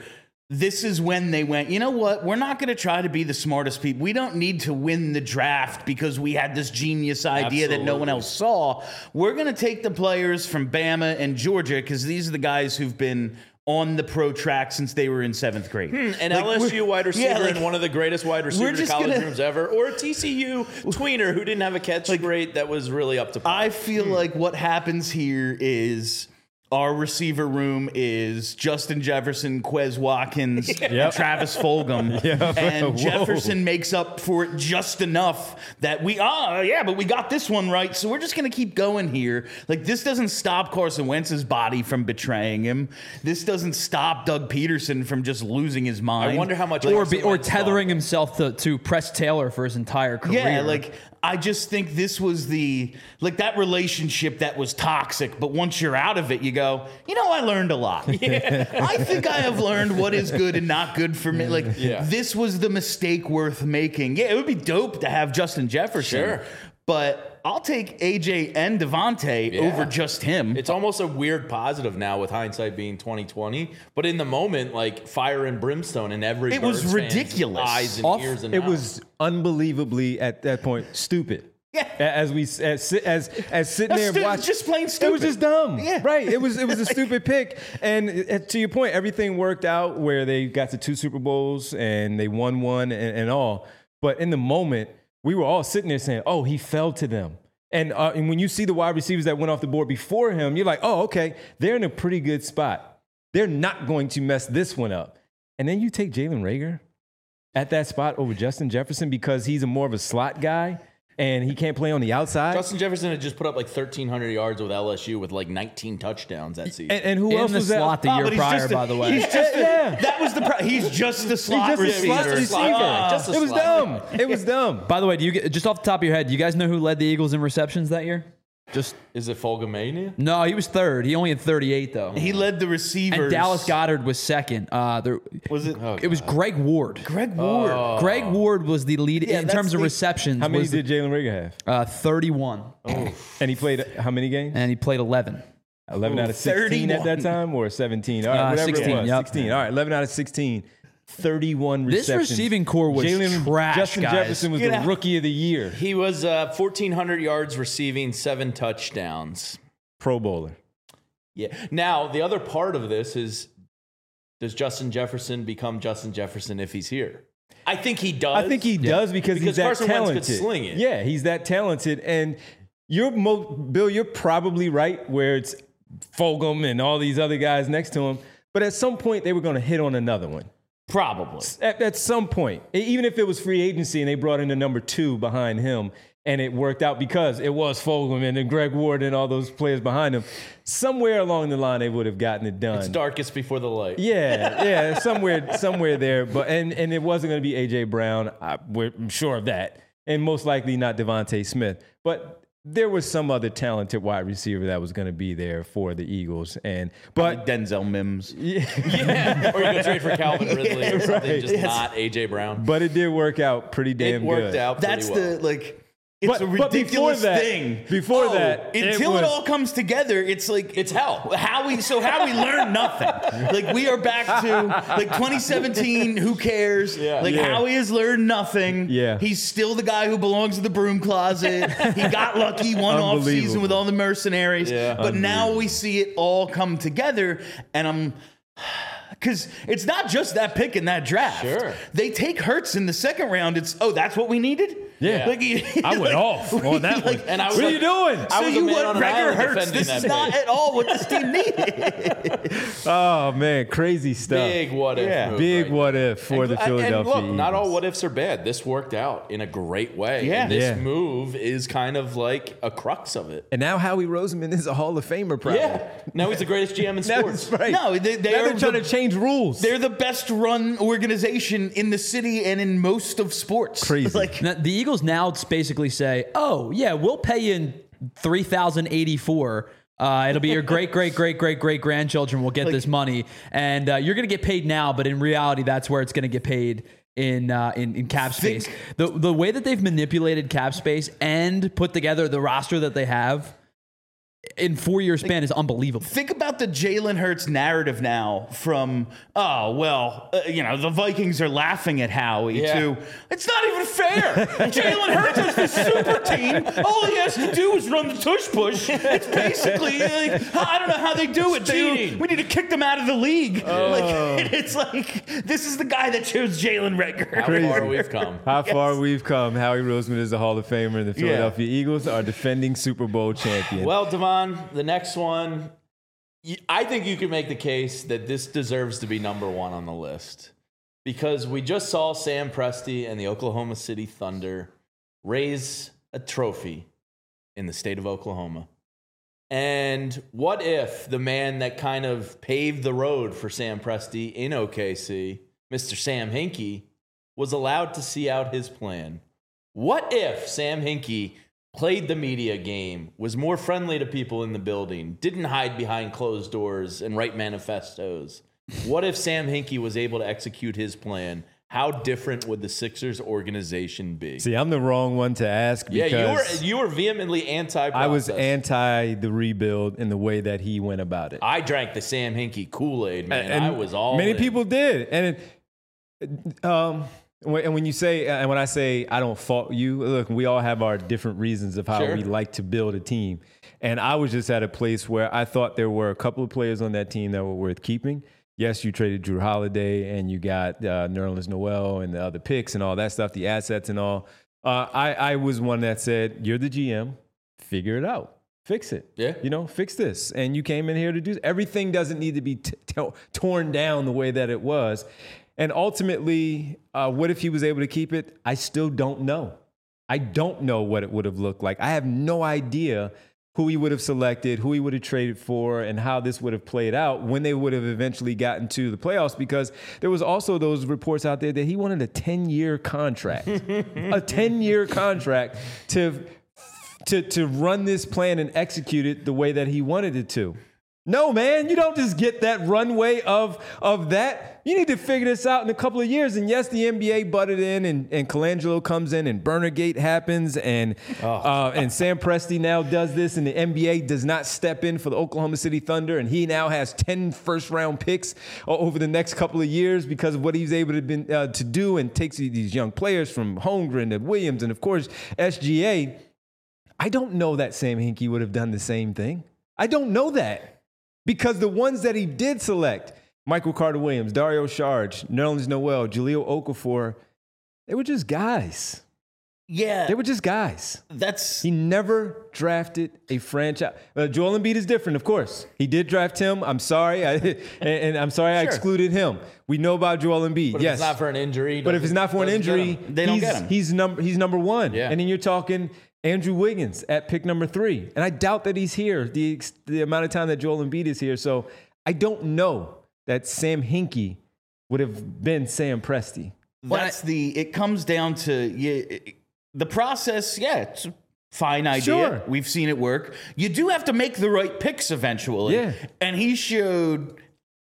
this is when they went, you know what? We're not going to try to be the smartest people. We don't need to win the draft because we had this genius idea that no one Absolutely. else saw. We're going to take the players from Bama and Georgia because these are the guys who've been on the pro track since they were in seventh grade. An Like, L S U we're- wide receiver yeah, like, and one of the greatest wide receivers in just college gonna- rooms ever, or a T C U tweener who didn't have a catch rate that was really up to par. I feel like what happens here is our receiver room is Justin Jefferson, Quez Watkins, and Travis Fulgham. And Whoa. Jefferson makes up for it just enough that we, oh, yeah, but we got this one right. So we're just going to keep going here. Like, this doesn't stop Carson Wentz's body from betraying him. This doesn't stop Doug Peterson from just losing his mind. I wonder how much Or, Carson be, or Wentz tethering thought. himself to, to Press Taylor for his entire career. Yeah, like I just think this was the like that relationship that was toxic, but once you're out of it, you go, you know, I learned a lot. I think I have learned what is good and not good for me. Like Yeah. this was the mistake worth making. Yeah, it would be dope to have Justin Jefferson, Sure. but I'll take A J and Devontae Yeah. over just him. It's almost a weird positive now with hindsight being twenty twenty, but in the moment, like fire and brimstone in every It was Birds fan's ridiculous. eyes and Off- ears and It mouth. was unbelievably at that point stupid. Yeah. As we as si- as as sitting That's there stu- watching, just plain It was stupid. just dumb. Yeah. Right. It was it was a stupid pick. And uh, to your point, everything worked out where they got to two Super Bowls and they won one and, and all. But in the moment, we were all sitting there saying, "Oh, he fell to them." And, uh, and when you see the wide receivers that went off the board before him, you're like, "Oh, okay, they're in a pretty good spot. They're not going to mess this one up." And then you take Jalen Reagor at that spot over Justin Jefferson because he's a more of a slot guy and he can't play on the outside. Justin Jefferson had just put up like thirteen hundred yards with L S U with like nineteen touchdowns that season. and, and who in else the was slot that? the Oh, year but he's prior, just a- by the way. He's just a, Yeah. That was the pro- he's just the slot He's just a receiver. slot receiver. Ah. Just a It was slot. dumb. It was dumb. By the way, do you get, just off the top of your head, do you guys know who led the Eagles in receptions that year? Just Is it Fulgamania? no, he was third. He only had thirty-eight though. He led the receivers. And Dallas Goddard was second. Uh, there, Was it it was Greg Ward. Greg Ward? Greg Ward was the lead Yeah, in that's terms of the- receptions. How many was the- did Jalen Reagor have? uh, thirty-one, And he played how many games? and he played eleven. eleven out of sixteen at that thirty-one. time or seventeen? All right, Uh, whatever sixteen, it was. yep. sixteen. All right, eleven out of sixteen. thirty-one This receptions. receiving core was Jalen, trash, Justin guys. Jefferson was Get the out. rookie of the year. He was uh, fourteen hundred yards receiving, seven touchdowns. Pro Bowler. Yeah. Now, the other part of this is, does Justin Jefferson become Justin Jefferson if he's here? I think he does. I think he does because, Because he's that Carson Wentz talented. could sling it. Yeah, he's that talented. And you're mo- Bill, you're probably right where it's Fulgham and all these other guys next to him. But at some point, they were going to hit on another one. Probably. At, at some point, E- even if it was free agency and they brought in the number two behind him, and it worked out because it was Fulgham and then Greg Ward and all those players behind him, somewhere along the line they would have gotten it done. It's darkest before the light. Yeah, yeah, somewhere, somewhere there. But and and it wasn't going to be A J Brown. I, we're, I'm sure of that, and most likely not Devontae Smith. But there was some other talented wide receiver that was going to be there for the Eagles. And but Like Denzel Mims. Yeah. Or you go trade for Calvin Ridley or something, right. just Yes. not A J Brown. but it did work out pretty damn It worked good. out pretty That's well. the like. It's But- a but before ridiculous that- thing. before Oh, that, it until it, was- all comes together, it's like It's hell. Howie, so Howie learned nothing. Like we are back to like twenty seventeen. Who cares? Yeah. Like Yeah. Howie has learned nothing. Yeah. He's still the guy who belongs to the broom closet. He got lucky one off season Unbelievable. with all the mercenaries. Yeah. But now we see it all come together, and I'm. Because it's not just that pick in that draft. Sure. They take Hurts in the second round. It's, oh, that's what we needed? Yeah. Like, I went like, off on that one. And I was what like- are you doing? I so was a you man want on an Reagor island Hurts. defending This that is not pick. at all what this team needed. Oh man, crazy stuff. Big what if. Yeah. move Big right what there. if for And- the and Philadelphia look, not all Eagles. what ifs are bad. This worked out in a great way. Yeah. And this Yeah. move is kind of like a crux of it. And now Howie Roseman is a Hall of Famer, probably. Yeah. Now he's the greatest G M in Now sports. that's right. No, they- they now are they're trying the- to change rules. They're the best run organization in the city and in most of sports. Crazy. Like, Now, the Eagles now basically say, "Oh yeah, we'll pay you in three thousand eighty-four. Uh, it'll be your great, great, great, great, great grandchildren will get this money, and uh, you're going to get paid now. But in reality, that's where it's going to get paid in uh, in, in cap space. The the way that they've manipulated cap space and put together the roster that they have." in four year span is unbelievable. Think about the Jalen Hurts narrative now from, oh, well, uh, you know, the Vikings are laughing at Howie Yeah. to, it's not even fair. Jalen Hurts is the super team. All he has to do is run the tush push. It's basically, like, I don't know how they do it. They, cheating. we need to kick them out of the league. Like, it's like, this is the guy that chose Jalen Reagor. How far we've come. How far we've come. Howie Roseman is a Hall of Famer, and the Philadelphia Eagles are defending Super Bowl champion. Well, Devon, the next one, y- I think you could make the case that this deserves to be number one on the list because we just saw Sam Presti and the Oklahoma City Thunder raise a trophy in the state of Oklahoma. And what if the man that kind of paved the road for Sam Presti in O K C, Mister Sam Hinkie, was allowed to see out his plan? What if Sam Hinkie played the media game, was more friendly to people in the building, didn't hide behind closed doors and write manifestos? What if Sam Hinkie was able to execute his plan? How different would the Sixers organization be? See, I'm the wrong one to ask Yeah, because you were you were vehemently anti. I was anti the rebuild in the way that he went about it. I drank the Sam Hinkie Kool-Aid, man. And I was all many in. people did, and it, um, when- and when you say, and when I say I don't fault you, look, we all have our different reasons of how Sure. we like to build a team, and I was just at a place where I thought there were a couple of players on that team that were worth keeping. Yes, you traded Drew Holiday, and you got uh, Nerlens Noel and the other picks and all that stuff, the assets and all. Uh, I, I was one that said, "You're the G M, figure it out." Fix it. Yeah. You know, fix this. And you came in here to do everything doesn't need to be t- t- torn down the way that it was. And ultimately, uh, what if he was able to keep it? I still don't know. I don't know what it would have looked like. I have no idea who he would have selected, who he would have traded for, and how this would have played out when they would have eventually gotten to the playoffs, because there was also those reports out there that he wanted a ten-year contract, a ten-year contract to to to run this plan and execute it the way that he wanted it to. No, man, you don't just get that runway of, of that. You need to figure this out in a couple of years. And yes, the N B A butted in, and, and Colangelo comes in, and Burnergate happens, and Oh. uh, and Sam Presti now does this, and the N B A does not step in for the Oklahoma City Thunder, and he now has ten first-round picks over the next couple of years because of what he's able to, been, uh, to do, and takes these young players from Holmgren to Williams and, of course, S G A. I don't know that Sam Hinkie would have done the same thing. I don't know that. Because the ones that he did select, Michael Carter-Williams, Dario Saric, Nerlens Noel, Jahlil Okafor, they were just guys. Yeah, They were just guys. that's He never drafted a franchise. Uh, Joel Embiid is different, of course. He did draft him. I'm sorry. I, and, and I'm sorry I Sure. excluded him. We know about Joel Embiid. But if yes. it's not for an injury, But if it's not for an doesn't get injury, him. They don't he's, get him. He's number he's number one. Yeah. And then you're talking Andrew Wiggins at pick number three. And I doubt that he's here the ex- the amount of time that Joel Embiid is here. So I don't know that Sam Hinkie would have been Sam Presti. that's the. It comes down to yeah, it- the process. Yeah, it's a fine idea. Sure. We've seen it work. You do have to make the right picks eventually. Yeah. and he showed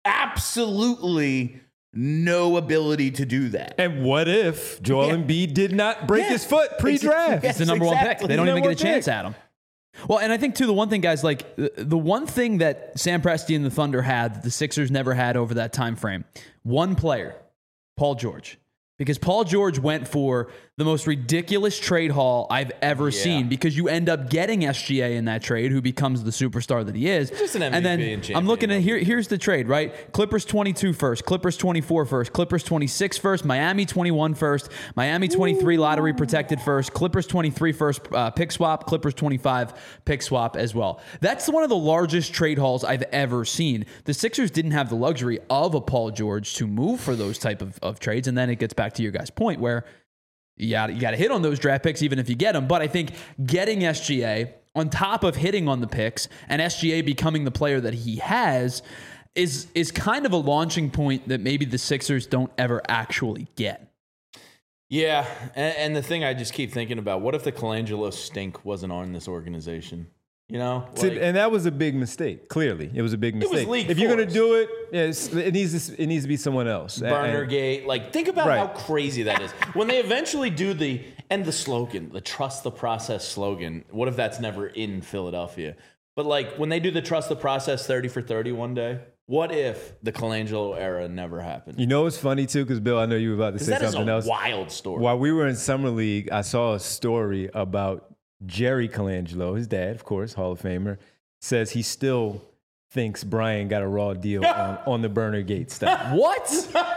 absolutely no ability to do that. And what if Joel Yeah. Embiid did not break Yeah. his foot pre-draft? Yeah. It's the number one exactly. pick. They don't He's even number get a one chance pick. at him. Well, and I think, too, the one thing, guys, like the, the one thing that Sam Presti and the Thunder had that the Sixers never had over that time frame, one player, Paul George. Because Paul George went for the most ridiculous trade haul I've ever Yeah. seen, because you end up getting S G A in that trade, who becomes the superstar that he is. Just an M V P and then and champion. I'm looking at here. Here's the trade, right? Clippers twenty-two first, Clippers twenty-four first, Clippers twenty-six first, Miami twenty-one first, Miami twenty-three lottery protected first, Clippers twenty-three first uh, pick swap, Clippers twenty-five pick swap as well. That's one of the largest trade hauls I've ever seen. The Sixers didn't have the luxury of a Paul George to move for those type of, of trades, and then it gets back to your guys' point where you got you got to hit on those draft picks even if you get them. But I think getting S G A on top of hitting on the picks and S G A becoming the player that he has is is kind of a launching point that maybe the Sixers don't ever actually get. Yeah, and, and the thing I just keep thinking about, what if the Colangelo stink wasn't on this organization? You know? See, Like, and that was a big mistake. Clearly, it was a big was mistake. league if you're going to force. do it, yes, it needs to, it needs to be someone else. And- Burnergate. Like, think about Right. how crazy that is. When they eventually do the, and the slogan, the trust the process slogan, what if that's never in Philadelphia? But like when they do the trust the process thirty for thirty one day, what if the Colangelo era never happened? You know what's funny too, because Bill, I know you were about to say That is something a else. wild story. While we were in summer league, I saw a story about Jerry Colangelo, his dad, of course, Hall of Famer, says he still thinks Brian got a raw deal on, on the Burner Gate stuff. What?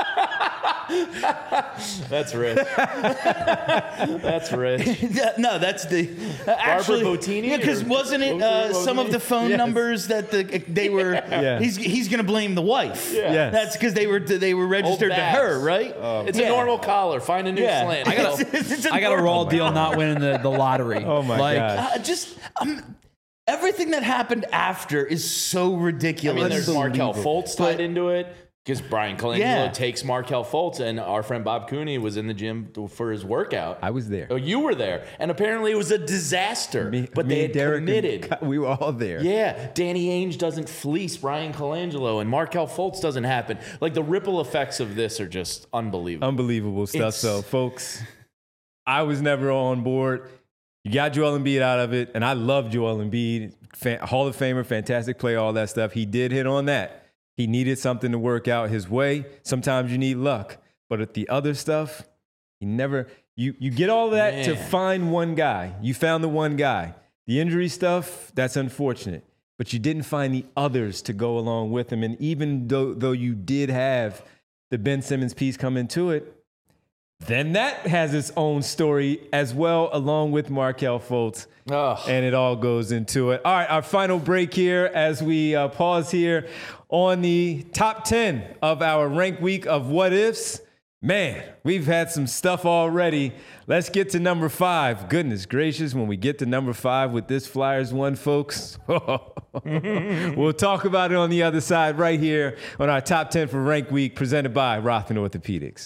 That's rich. That's rich. No, that's the uh, actually. Bottini Yeah, because or- wasn't it Barbara uh, some of the phone Yes. numbers that the they were? Yeah. He's he's gonna blame the wife. Yeah. Yes. That's because they were they were registered to Babs. her, right? It's Yeah. a normal collar. Find a new Yeah. slant. I got Go. It's I got a normal. raw deal not winning the, the lottery. Oh my like, God. Uh, just um, everything that happened after is so I ridiculous. mean, there's Markel Unbelievable. Fultz tied into it because Brian Colangelo Yeah. takes Markel Fultz, and our friend Bob Cooney was in the gym for his workout. I was there. Oh, you were there, and apparently it was a disaster. Me- but me they and had Derek and committed. Ka- we were all there. Yeah, Danny Ainge doesn't fleece Brian Colangelo, and Markel Fultz doesn't happen. Like the ripple effects of this are just unbelievable. Unbelievable stuff. It's- So, folks, I was never on board. You got Joel Embiid out of it, and I love Joel Embiid, fan, Hall of Famer, fantastic player, all that stuff. He did hit on that. He needed something to work out his way. Sometimes you need luck, but at the other stuff, he never. You you get all that to Man. find one guy. You found the one guy. The injury stuff, that's unfortunate, but you didn't find the others to go along with him. And even though though you did have the Ben Simmons piece come into it, then that has its own story as well, along with Markel Fultz. Ugh. And it all goes into it. All right, our final break here as we uh, pause here on the top ten of our rank week of what ifs. Man, we've had some stuff already. Let's get to number five. Goodness gracious, when we get to number five with this Flyers one, folks, we'll talk about it on the other side right here on our top ten for rank week presented by Rothman Orthopedics.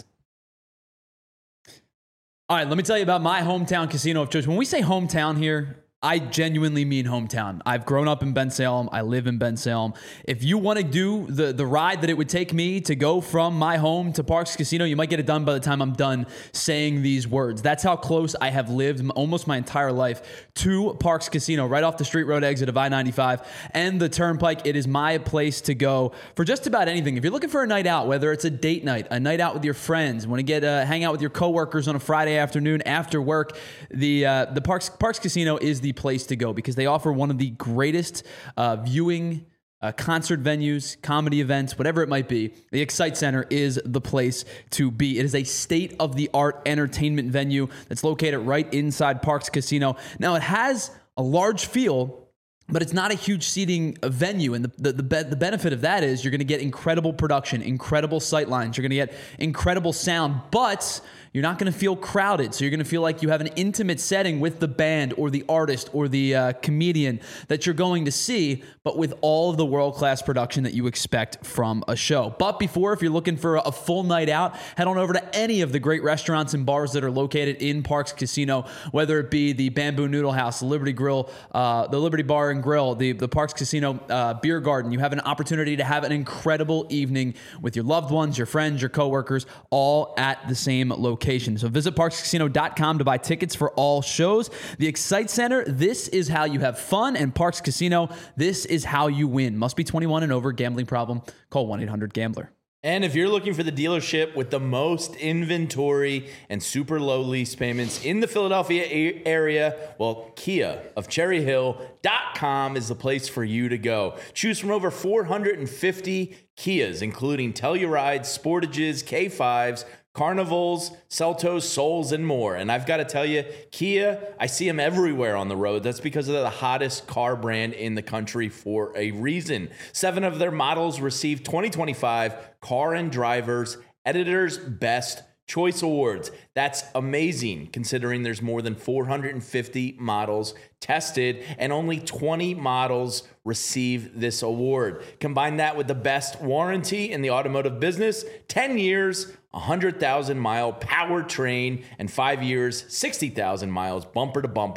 All right, let me tell you about my hometown casino of choice. When we say hometown here, I genuinely mean hometown. I've grown up in Bensalem. I live in Bensalem. If you want to do the, the ride that it would take me to go from my home to Parks Casino, you might get it done by the time I'm done saying these words. That's how close I have lived m- almost my entire life to Parks Casino, right off the Street Road exit of I ninety-five and the Turnpike. It is my place to go for just about anything. If you're looking for a night out, whether it's a date night, a night out with your friends, want to get uh, hang out with your coworkers on a Friday afternoon after work, the uh, the Parks Parks Casino is the place to go because they offer one of the greatest uh, viewing uh, concert venues, comedy events, whatever it might be. The Excite Center is the place to be. It is a state-of-the-art entertainment venue that's located right inside Parks Casino. Now, it has a large field, but it's not a huge seating venue. And the, the, the, be- the benefit of that is you're going to get incredible production, incredible sight lines. You're going to get incredible sound, but you're not going to feel crowded. So you're going to feel like you have an intimate setting with the band or the artist or the uh, comedian that you're going to see, but with all of the world-class production that you expect from a show. But before, if you're looking for a full night out, head on over to any of the great restaurants and bars that are located in Parks Casino, whether it be the Bamboo Noodle House, the Liberty Grill, uh, the Liberty Bar and Grill, the, the Parks Casino uh, Beer Garden. You have an opportunity to have an incredible evening with your loved ones, your friends, your coworkers, all at the same location. So visit parks casino dot com to buy tickets for all shows. The Excite Center, this is how you have fun, and Parks Casino, this is how you win. Must be twenty-one and over. Gambling problem? Call one eight hundred gambler. And if you're looking for the dealership with the most inventory and super low lease payments in the Philadelphia a- area, well, Kia of Cherry Hill dot com is the place for you to go. Choose from over four hundred fifty Kias, including Telluride, Sportages, K fives, Carnivals, Seltos, Souls, and more. And I've got to tell you, Kia, I see them everywhere on the road. That's because they're the hottest car brand in the country for a reason. Seven of their models received twenty twenty-five Car and Drivers Editor's Best Choice Awards. That's amazing considering there's more than four hundred fifty models tested and only twenty models receive this award. Combine that with the best warranty in the automotive business, ten years, one hundred thousand mile powertrain, and five years, sixty thousand miles bumper to bumper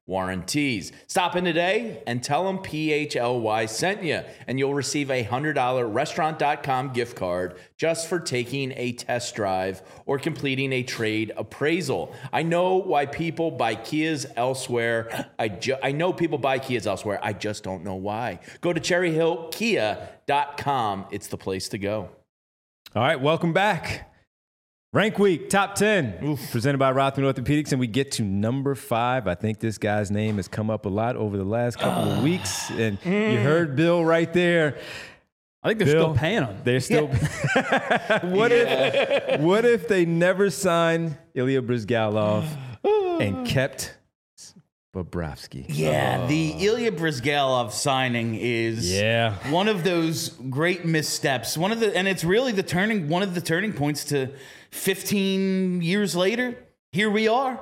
warranties. Stop in today and tell them P H L Y sent you, and you'll receive a one hundred dollars restaurant dot com gift card just for taking a test drive or completing a trade appraisal. I know why people buy Kias elsewhere. I, ju- I know people buy Kias elsewhere. I just don't know why. Go to cherry hill kia dot com. It's the place to go. All right, welcome back. Rank Week, top ten, Oof. presented by Rothman Orthopedics, and we get to number five. I think this guy's name has come up a lot over the last couple uh, of weeks, and mm. you heard Bill right there. I think they're Bill, still paying him. They're still. Yeah. what yeah. if? What if they never signed Ilya Bryzgalov and kept Bobrovsky? Yeah, oh. the Ilya Bryzgalov signing is yeah. one of those great missteps. One of the, and it's really the turning, one of the turning points to fifteen years later. Here we are.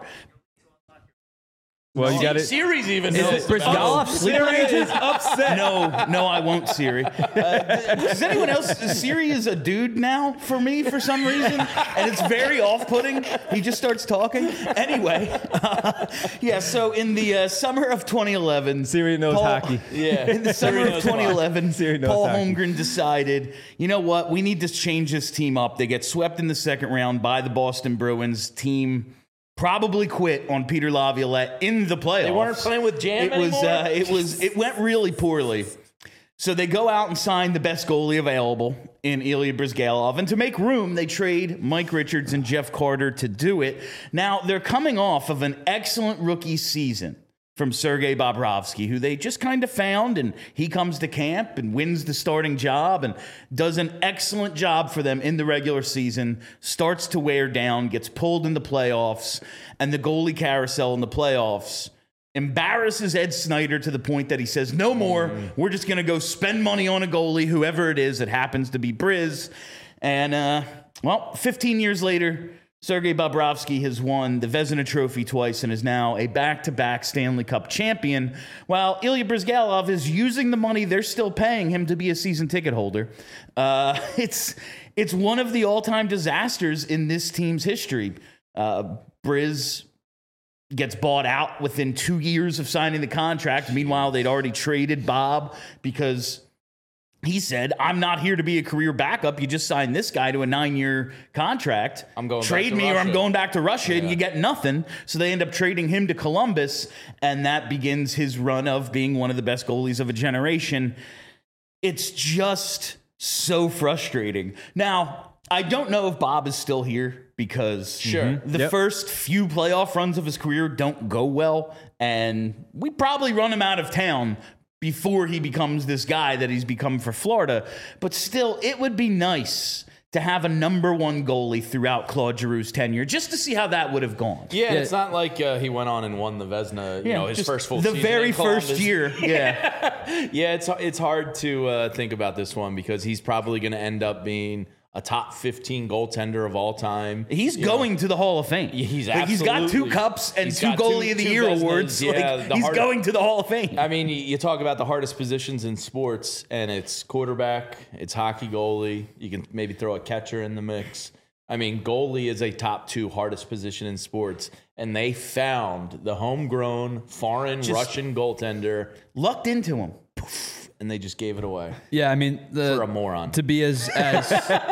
Well, you got it. Siri's even is knows. Bryzgalov Siri is upset. No, no, I won't, Siri. Uh, does anyone else? Siri is a dude now for me for some reason, and it's very off-putting. He just starts talking. Anyway, uh, yeah. So in the uh, summer of twenty eleven, Siri knows Paul, hockey. Yeah. In the summer of twenty eleven, Siri knows Paul hockey. Holmgren decided, you know what? We need to change this team up. They get swept in the second round by the Boston Bruins. Team probably quit on Peter Laviolette in the playoffs. They weren't playing with Jam it was, anymore? uh, it was. It went really poorly. So they go out and sign the best goalie available in Ilya Bryzgalov. And to make room, they trade Mike Richards and Jeff Carter to do it. Now, they're coming off of an excellent rookie season from Sergei Bobrovsky, who they just kind of found, and he comes to camp and wins the starting job and does an excellent job for them in the regular season, starts to wear down, gets pulled in the playoffs, and the goalie carousel in the playoffs embarrasses Ed Snyder to the point that he says, no more, we're just going to go spend money on a goalie, whoever it is. It happens to be Briz. And, uh, well, fifteen years later, Sergei Bobrovsky has won the Vezina Trophy twice and is now a back-to-back Stanley Cup champion, while Ilya Bryzgalov is using the money they're still paying him to be a season ticket holder. Uh, it's it's one of the all-time disasters in this team's history. Uh, Briz gets bought out within two years of signing the contract. Meanwhile, they'd already traded Bob because he said, I'm not here to be a career backup. You just signed this guy to a nine-year contract. I'm going Trade back to me Russia. or I'm going back to Russia, Yeah. and you get nothing. So they end up trading him to Columbus, and that begins his run of being one of the best goalies of a generation. It's just so frustrating. Now, I don't know if Bob is still here because Sure. the Yep. first few playoff runs of his career don't go well, and we probably run him out of town before he becomes this guy that he's become for Florida. But still, it would be nice to have a number one goalie throughout Claude Giroux's tenure, just to see how that would have gone. Yeah, Yeah. it's not like uh, he went on and won the Vezina, you know, his just first full the season. very in first Columbus. year. Yeah. Yeah, it's it's hard to uh, think about this one because he's probably going to end up being a top fifteen goaltender of all time. He's You going know, to the Hall of Fame. He's like, he's got two absolutely- cups and he's two got Goalie two- of the two Year Vezinas. awards. Yeah, Like, the he's hard- going to the Hall of Fame. I mean, you, you talk about the hardest positions in sports, and it's quarterback, it's hockey goalie. You can maybe throw a catcher in the mix. I mean, goalie is a top two hardest position in sports, and they found the homegrown foreign Just- Russian goaltender, Lucked into him. and they just gave it away Yeah, I mean, the, for a moron. to be as as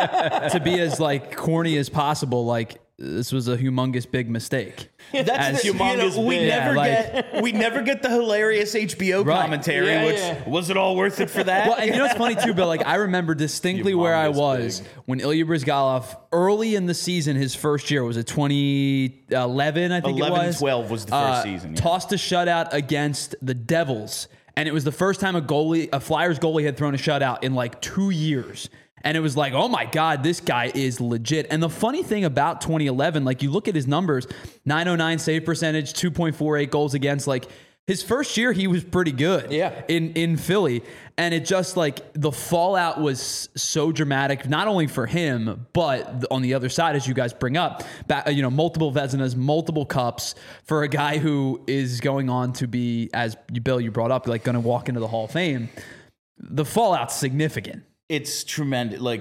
to be as like corny as possible. Like this was a humongous big mistake. That's As the, you know, humongous we big. never Yeah, like- get we never get the hilarious H B O Right. commentary, Yeah, which yeah. was it all worth it for that? Well, and you know what's funny too, Bill? Like I remember distinctly where I Humongous was big. when Ilya Bryzgalov early in the season, his first year was it twenty eleven, I think eleven it was. twelve was the first Uh, season, yeah. Tossed a shutout against the Devils, and it was the first time a goalie, a Flyers goalie, had thrown a shutout in like two years. And it was like, oh my God, this guy is legit. And the funny thing about twenty eleven, like you look at his numbers, nine oh nine save percentage, two point four eight goals against, like his first year, he was pretty good Yeah. in, in Philly. And it just like the fallout was so dramatic, not only for him, but on the other side, as you guys bring up, back, you know, multiple Vezinas, multiple cups for a guy who is going on to be, as you, Bill, you brought up, like going to walk into the Hall of Fame. The fallout's significant. It's tremendous. Like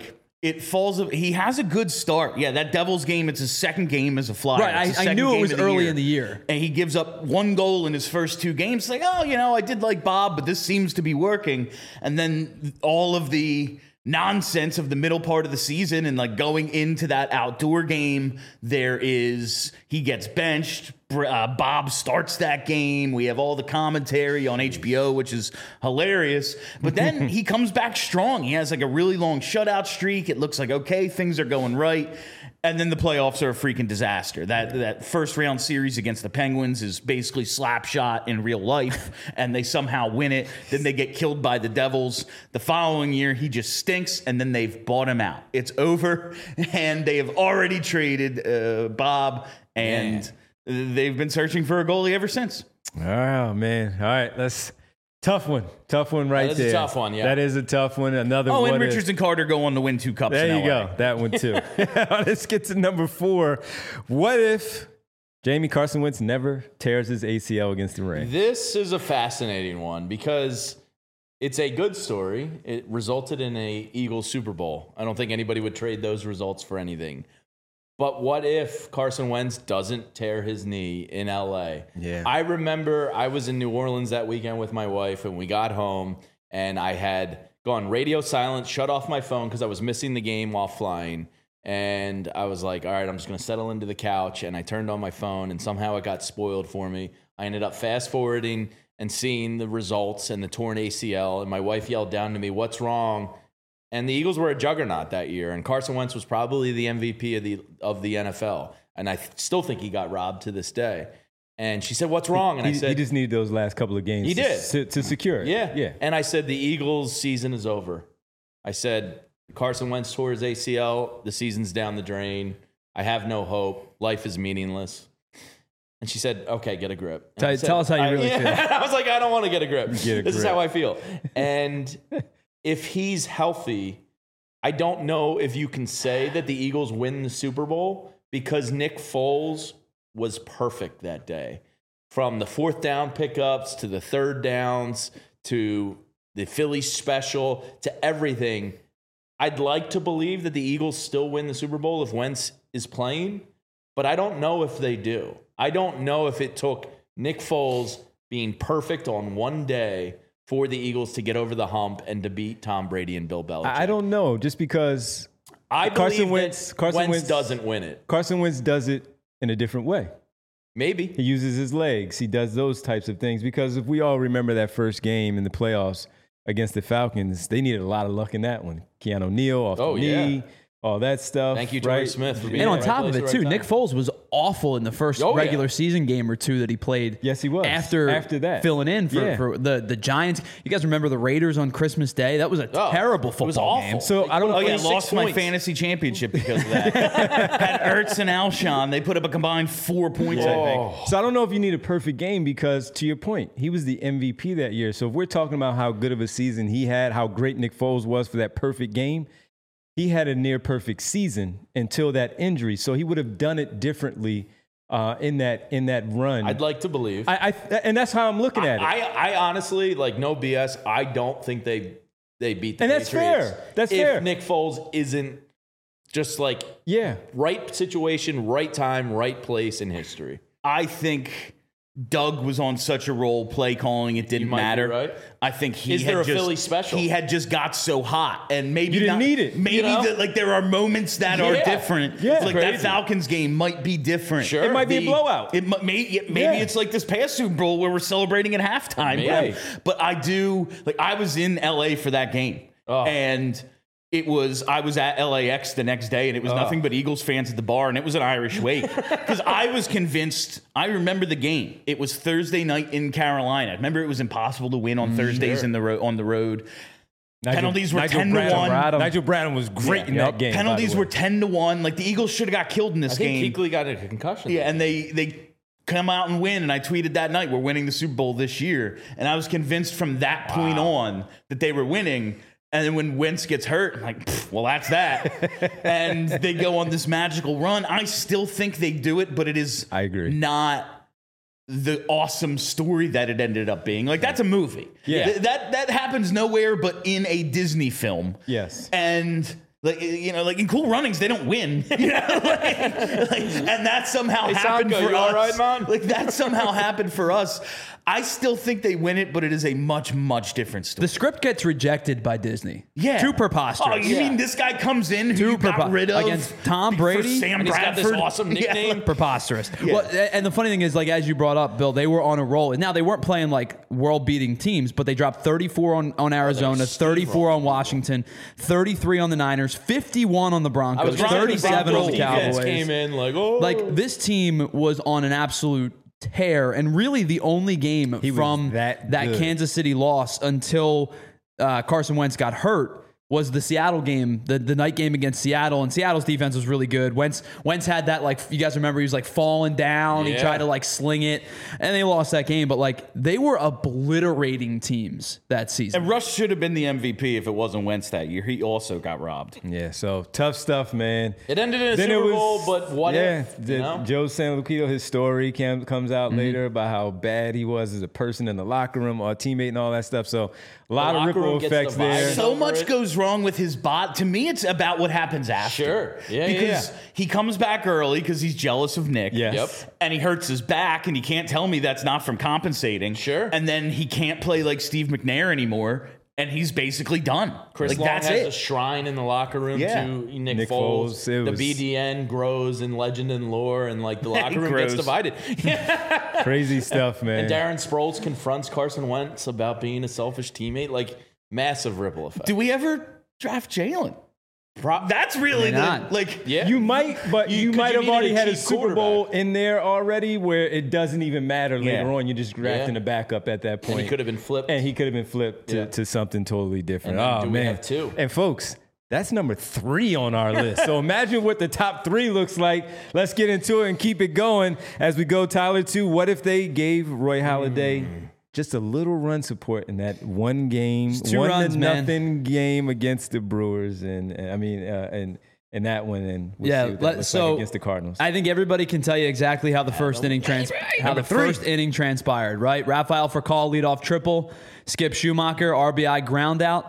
It falls. He has a good start. Yeah, that Devils game. It's his second game as a Flyer. Right, It's his I- I second knew it game was of the early year. in the year. And he gives up one goal in his first two games. It's like, oh, you know, I did like Bob, but this seems to be working. And then all of the nonsense of the middle part of the season and like going into that outdoor game, there is he gets benched. Uh, Bob starts that game. We have all the commentary on H B O, which is hilarious. But then he comes back strong. He has like a really long shutout streak. It looks like, okay, things are going right. And then the playoffs are a freaking disaster. That that first round series against the Penguins is basically slap shot in real life, and they somehow win it. Then they get killed by the Devils. The following year, he just stinks, and then they've bought him out. It's over, and they have already traded uh, Bob, and they've been searching for a goalie ever since. Oh man! All right, that's tough one. Tough one right That is a there. tough one, yeah. That is a tough one. Another Oh, one. and is- Richards and Carter go on to win two cups. There in you L A. go. That one too. Let's get to number four. What if Jamie Carson Wentz never tears his A C L against the Rams? This is a fascinating one because it's a good story. It resulted in a Eagles Super Bowl. I don't think anybody would trade those results for anything. But what if Carson Wentz doesn't tear his knee in L A? Yeah. I remember I was in New Orleans that weekend with my wife, and we got home, and I had gone radio silent, shut off my phone because I was missing the game while flying. And I was like, all right, I'm just going to settle into the couch. And I turned on my phone, and somehow it got spoiled for me. I ended up fast forwarding and seeing the results and the torn A C L. And my wife yelled down to me, "What's wrong?" And the Eagles were a juggernaut that year. And Carson Wentz was probably the M V P of the of the N F L. And I th- still think he got robbed to this day. And she said, "What's wrong?" And he, I said, he just needed those last couple of games. He to, did. to, to secure it. Yeah. yeah. And I said, the Eagles' season is over. I said, Carson Wentz tore his A C L. The season's down the drain. I have no hope. Life is meaningless. And she said, okay, get a grip. And Tell- I said, tell us how you I- really feel. I was like, I don't want to get a grip. Get a this is grip. how I feel. And if he's healthy, I don't know if you can say that the Eagles win the Super Bowl because Nick Foles was perfect that day. From the fourth down pickups to the third downs to the Philly special to everything. I'd like to believe that the Eagles still win the Super Bowl if Wentz is playing, but I don't know if they do. I don't know if it took Nick Foles being perfect on one day for the Eagles to get over the hump and to beat Tom Brady and Bill Belichick. I I don't know, just because I Carson believe Wentz- that Carson Wentz, Wentz- doesn't win it. Carson Wentz does it in a different way. Maybe. He uses his legs. He does those types of things because if we all remember that first game in the playoffs against the Falcons, they needed a lot of luck in that one. Keanu Neal off Oh, the yeah. knee, all that stuff. Thank you, Torrey right? Smith, for being And in on the top right of place it, at the too, right Nick time. Foles was awful in the first Oh, yeah. regular season game or two that he played. Yes, he was. After, After that. filling in for, Yeah. for the, the Giants. You guys remember the Raiders on Christmas Day? That was a Oh, terrible it was football awful. game. So I don't know Oh if yeah, Six lost my points. fantasy championship because of that. Had Ertz and Alshon. They put up a combined four points, I think. So I don't know if you need a perfect game because, to your point, he was the M V P that year. So if we're talking about how good of a season he had, how great Nick Foles was for that perfect game, he had a near perfect season until that injury. So he would have done it differently uh, in that in that run. I'd like to believe. I, I and that's how I'm looking at it. I, I honestly, like, no B S, I don't think they they beat the And that's Patriots. fair. That's if fair. Nick Foles isn't just like yeah. right situation, right time, right place in history. I think Doug was on such a roll, play calling, it didn't might be matter. right. I think he Is had there a just, Philly special? He had just got so hot, and maybe You didn't not- need it, Maybe you know? the, like there are moments that are Yeah. different. Yeah. like that Crazy. Falcons game might be different. Sure. It might be a The- blowout. It mi- may, yeah, maybe Yeah. it's like this past Super Bowl where we're celebrating at halftime. Maybe. Right? But I do like I was in L A for that game, Oh. and it was I was at L A X the next day, and it was Oh. nothing but Eagles fans at the bar, and it was an Irish wake because I was convinced. I remember the game. It was Thursday night in Carolina. I remember it was impossible to win on Thursdays sure. in the ro- on the road. Nigel- Penalties were Nigel ten to Bradham- one. Bradham- Nigel Bradham was great Yeah. in Yep. that game. by the Penalties way. were ten to one. Like the Eagles should have got killed in this I think game. Kuechly got a concussion. Yeah, and they they come out and win. And I tweeted that night, "We're winning the Super Bowl this year." And I was convinced from that point on that they were winning. And then when Wentz gets hurt, I'm like, "Pfft, well, that's that. And they go on this magical run. I still think they do it, but it is I agree. not the awesome story that it ended up being. Like that's a movie. Yeah. Th- that that happens nowhere but in a Disney film. Yes. And Like, you know, like in Cool Runnings, they don't win. You know, like, like, and that somehow Hey, happened Sanko, for you us. all right, man? Like that somehow happened for us. I still think they win it, but it is a much, much different story. The script gets rejected by Disney. Yeah. Too preposterous. Oh, you Yeah. mean this guy comes in who Too you got prepo- rid of against Tom for Brady? Sam And he's got Bradford? this awesome Yeah, nickname. like- Preposterous. Well, and the funny thing is, like as you brought up, Bill, they were on a roll. And now they weren't playing like world-beating teams, but they dropped thirty-four on, on Arizona, thirty-four on Washington, thirty-three on the Niners, fifty-one on the Broncos, was trying to thirty-seven on the defense Cowboys. came in like, oh. Like this team was on an absolute tear, and really the only game was from that that good. Kansas City loss until uh, Carson Wentz got hurt was the Seattle game, the, the night game against Seattle, and Seattle's defense was really good. Wentz Wentz had that, like, you guys remember, he was like falling down, he Yeah. tried to like sling it, and they lost that game, but like they were obliterating teams that season. And Rush should have been the M V P if it wasn't Wentz that year. He also got robbed. Yeah, so tough stuff, man. it ended in a Then it Super was- Bowl, but what yeah, if? the- You know? Joe San Lucido, his story cam, comes out Mm-hmm. later about how bad he was as a person in the locker room, or a teammate, and all that stuff. So a lot of locker ripple room gets effects divided. there. So over much it. goes wrong with his bot. To me, it's about what happens after. Sure. Yeah, yeah, Because yeah. he comes back early because he's jealous of Nick. Yes. Yep. And he hurts his back, and he can't tell me that's not from compensating. Sure. And then he can't play like Steve McNair anymore, and he's basically done. Chris like, Long that's has it. a shrine in the locker room Yeah. to Nick, Nick Foles. Foles, it The was- B D N grows in legend and lore, and like the locker room grows. gets divided. Crazy stuff, man. And Darren Sproles confronts Carson Wentz about being a selfish teammate. Like massive ripple effect. Do we ever draft Jalen? Pro- That's really Why the not? like. yeah, You might, but You- you, 'cause might you have needed already a had a cheap Super Bowl quarterback. in there already where it doesn't even matter later Yeah. on. You're just drafting Yeah. a backup at that point. and he could have been flipped. And he could have been flipped to, Yeah. to something totally different. And then Oh, do we man. have two? And folks, that's number three on our list. So imagine what the top three looks like. Let's get into it and keep it going as we go, Tyler, to what if they gave Roy Halladay Hmm. just a little run support in that one game, two one runs, to man. nothing game against the Brewers, and, and I mean, uh, and and that one, and we'll Yeah, see what that let- looks so like against the Cardinals. I think everybody can tell you exactly how the first inning trans how Number the three. first inning transpired, right? Rafael Furcal leadoff triple, Skip Schumacher R B I ground out.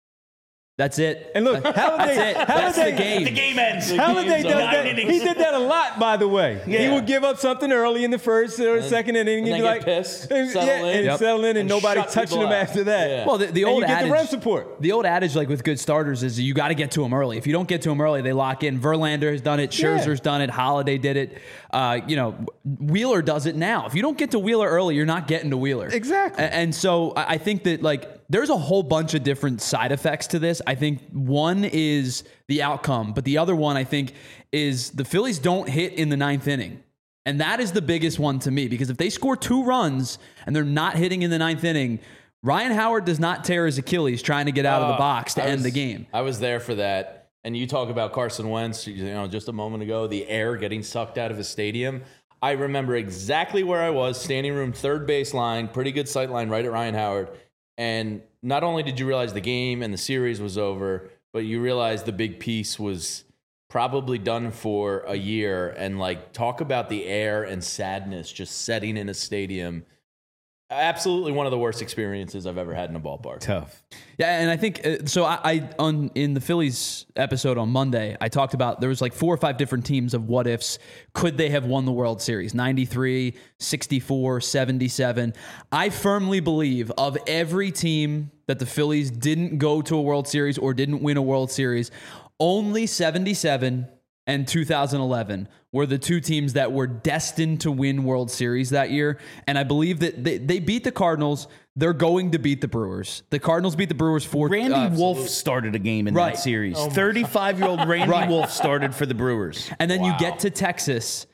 That's it. And look, That's Halladay, it. That's the Halladay- game. The game ends. Halladay game's does over. that. Nine innings. He did that a lot, by the way. He Yeah. would give up something early in the first or second inning, and and, then be get like, pissed, and, settle yeah, in. and Yep. settle in, and, And nobody shut touching people him out. after that. Yeah. Well, the, the And old you get adage, the run support. the old adage, like with good starters, is you got to get to them early. If you don't get to them early, they lock in. Verlander has done it. Scherzer's done it. Holiday did it. Uh, you know, Wheeler does it now. If you don't get to Wheeler early, you're not getting to Wheeler. Exactly. A- And so I I think that like there's a whole bunch of different side effects to this. I think one is the outcome, but the other one I think is the Phillies don't hit in the ninth inning. And that is the biggest one to me, because if they score two runs and they're not hitting in the ninth inning, Ryan Howard does not tear his Achilles trying to get out of the Uh, box to I end was- the game. I was there for that. And you talk about Carson Wentz, you know, just a moment ago, the air getting sucked out of his stadium. I remember exactly where I was, standing room, third base line, pretty good sight line right at Ryan Howard. And not only did you realize the game and the series was over, but you realized the big piece was probably done for a year. And like, talk about the air and sadness just setting in a stadium. Absolutely one of the worst experiences I've ever had in a ballpark. Tough. Yeah, and I think uh, so. I, I on in the Phillies episode on Monday, I talked about there was like four or five different teams of what ifs. Could they have won the World Series? ninety-three, sixty-four, seventy-seven. I firmly believe of every team that the Phillies didn't go to a World Series or didn't win a World Series, only seventy-seven and two thousand eleven were the two teams that were destined to win World Series that year. And I believe that they, they beat the Cardinals. They're going to beat the Brewers. The Cardinals beat the Brewers four. Randy uh, Wolf started a game in Right. that series. thirty-five-year-old Randy Right. Wolf started for the Brewers. And then you get to Texas,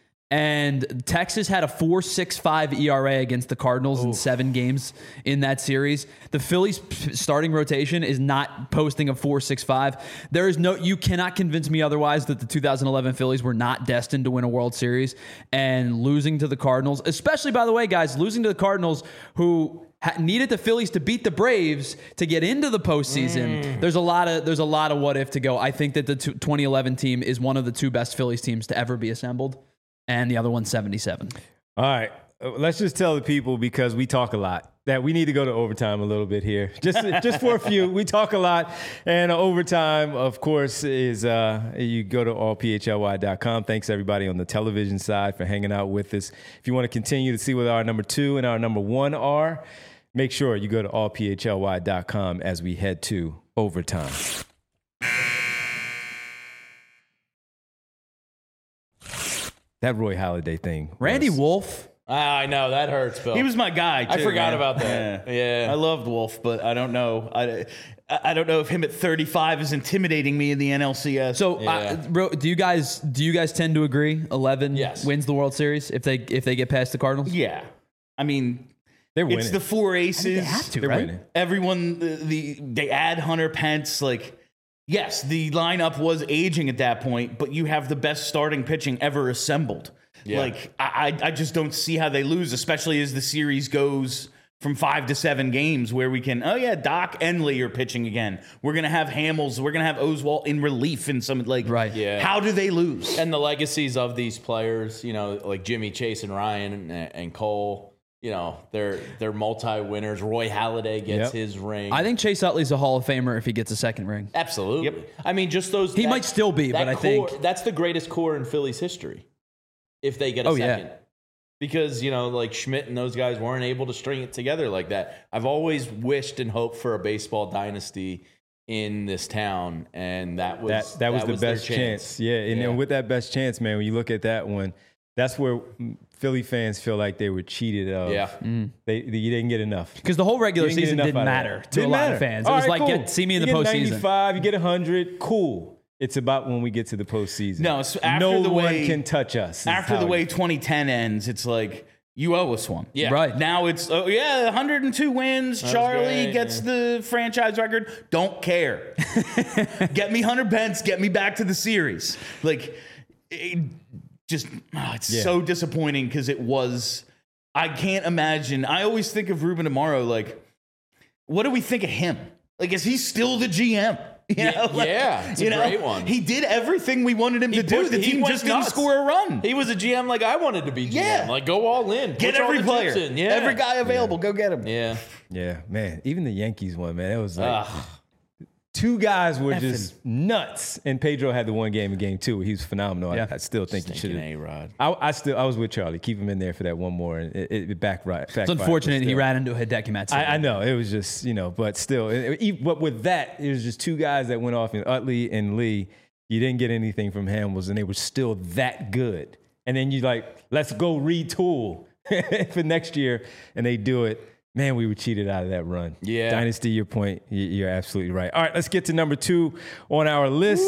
and Texas had a four point six five E R A against the Cardinals in seven games in that series. The Phillies p- starting rotation is not posting a four point six five. There is no, you cannot convince me otherwise that the two thousand eleven Phillies were not destined to win a World Series, and losing to the Cardinals, especially, by the way, guys, losing to the Cardinals who ha- needed the Phillies to beat the Braves to get into the postseason. There's a lot of there's a lot of what if to go. I think that the t- twenty eleven team is one of the two best Phillies teams to ever be assembled, and the other one's seventy-seven. All right. Uh, Let's just tell the people, because we talk a lot. that we need to go to overtime a little bit here, just just for a few. We talk a lot, and overtime, of course, is uh, you go to all p h l y dot com. Thanks everybody on the television side for hanging out with us. If you want to continue to see what our number two and our number one are, make sure you go to all p h l y dot com as we head to overtime. That Roy Halladay thing, Randy was, Wolf. I know that hurts, Bill. He was my guy, too. I forgot man. about that. Yeah. Yeah. I loved Wolf, but I don't know. I, I don't know if him at thirty-five is intimidating me in the N L C S. So, Yeah. uh, bro, do you guys do you guys tend to agree? Eleven Yes. wins the World Series if they if they get past the Cardinals. yeah. I mean, they're winning. it's the four aces. They have to, They're right? winning. Everyone, the, the they add Hunter Pence. Like, yes, the lineup was aging at that point, but you have the best starting pitching ever assembled. Yeah. Like, I, I I just don't see how they lose, especially as the series goes from five to seven games where we can, oh yeah, Doc and Lee are pitching again. We're going to have Hamels. We're going to have Oswalt in relief in some, like, Right. Yeah. How do they lose? And the legacies of these players, you know, like Jimmy, Chase, and Ryan and, and Cole, you know, they're they're multi-winners. Roy Halladay gets Yep. his ring. I think Chase Utley's a Hall of Famer if he gets a second ring. Absolutely. Yep. I mean, just those. He might still be, that but I core- think- that's the greatest core in Philly's history. If they get a Oh, yeah. second. Because, you know, like Schmidt and those guys weren't able to string it together like that. I've always wished and hoped for a baseball dynasty in this town, and that was that that was the their best chance. Yeah, and Yeah. then with that best chance, man, when you look at that one, that's where Philly fans feel like they were cheated of. Yeah. They, they you didn't get enough. Because the whole regular You didn't get season enough didn't out of matter that. to Didn't a lot matter. of fans. It All was right, like, cool. get see me in you the get postseason. ninety-five, you get one hundred, cool. It's about when we get to the postseason. No, so after no the one way- can touch us. is After how the way it- twenty ten ends, it's like, you owe us one. Yeah. Right. Now it's, oh, yeah, one hundred two wins. Charlie great, gets the franchise record. Don't care. Get me Hunter Pence. Get me back to the series. Like, it just, oh, it's Yeah. so disappointing because it was, I can't imagine. I always think of Ruben Amaro, like, what do we think of him? Like, is he still the G M? You know, like, yeah, it's a you know, great one. He did everything we wanted him to do. pushed- The he team went just didn't nuts. score a run. He was a G M like I wanted to be G M. Yeah. Like, go all in. Get Push all every the player. chips in. Yeah. Every guy available. Go get him. Yeah. Yeah, man. Even the Yankees one, man. It was like Ugh. two guys were just nuts, and Pedro had the one game in game two. He was phenomenal. Yeah. I, I still think he should Stinking have. A-Rod. I, I still I was with Charlie. Keep him in there for that one more, and it, it back right. It's unfortunate he ran into Hideki Matsui. I, I know it was just you know, but still, it, it, but with that, it was just two guys that went off in Utley and Lee. You didn't get anything from Hamels, and they were still that good. And then you like, let's go retool for next year, and they do it. Man, we were cheated out of that run. Yeah. Dynasty, your point, you- you're absolutely right. All right, let's get to number two on our list.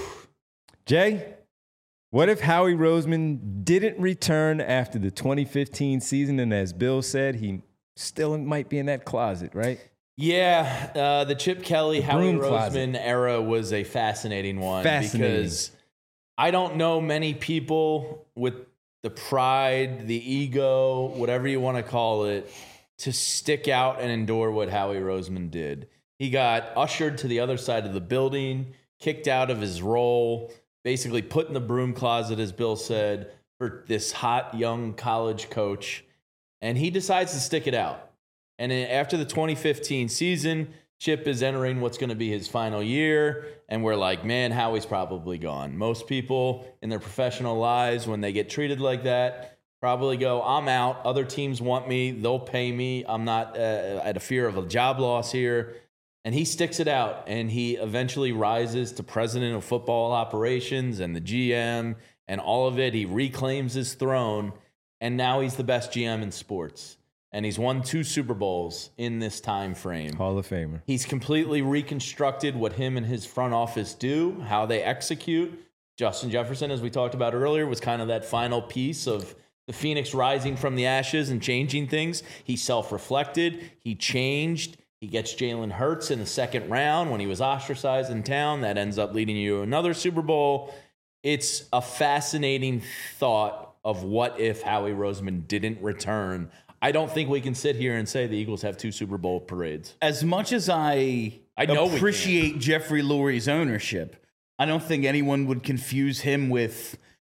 Jay, what if Howie Roseman didn't return after the twenty fifteen season? And as Bill said, he still might be in that closet, right? Yeah, uh, the Chip Kelly, Howie broom closet. Roseman era was a fascinating one Fascinating. because I don't know many people with the pride, the ego, whatever you want to call it, to stick out and endure what Howie Roseman did. He got ushered to the other side of the building, kicked out of his role, basically put in the broom closet, as Bill said, for this hot young college coach, and he decides to stick it out. And then after the twenty fifteen season, Chip is entering what's going to be his final year, and we're like, man, Howie's probably gone. Most people in their professional lives, when they get treated like that, probably go, I'm out. Other teams want me. They'll pay me. I'm not uh, at a fear of a job loss here. And he sticks it out, and he eventually rises to president of football operations and the G M and all of it. He reclaims his throne, and now he's the best G M in sports. And he's won two Super Bowls in this time frame. Hall of Famer. He's completely reconstructed what him and his front office do, how they execute. Justin Jefferson, as we talked about earlier, was kind of that final piece of the Phoenix rising from the ashes and changing things. He self-reflected. He changed. He gets Jalen Hurts in the second round when he was ostracized in town. That ends up leading you to another Super Bowl. It's a fascinating thought of what if Howie Roseman didn't return. I don't think we can sit here and say the Eagles have two Super Bowl parades. As much as I, I know we appreciate Jeffrey Lurie's ownership, I don't think anyone would confuse him with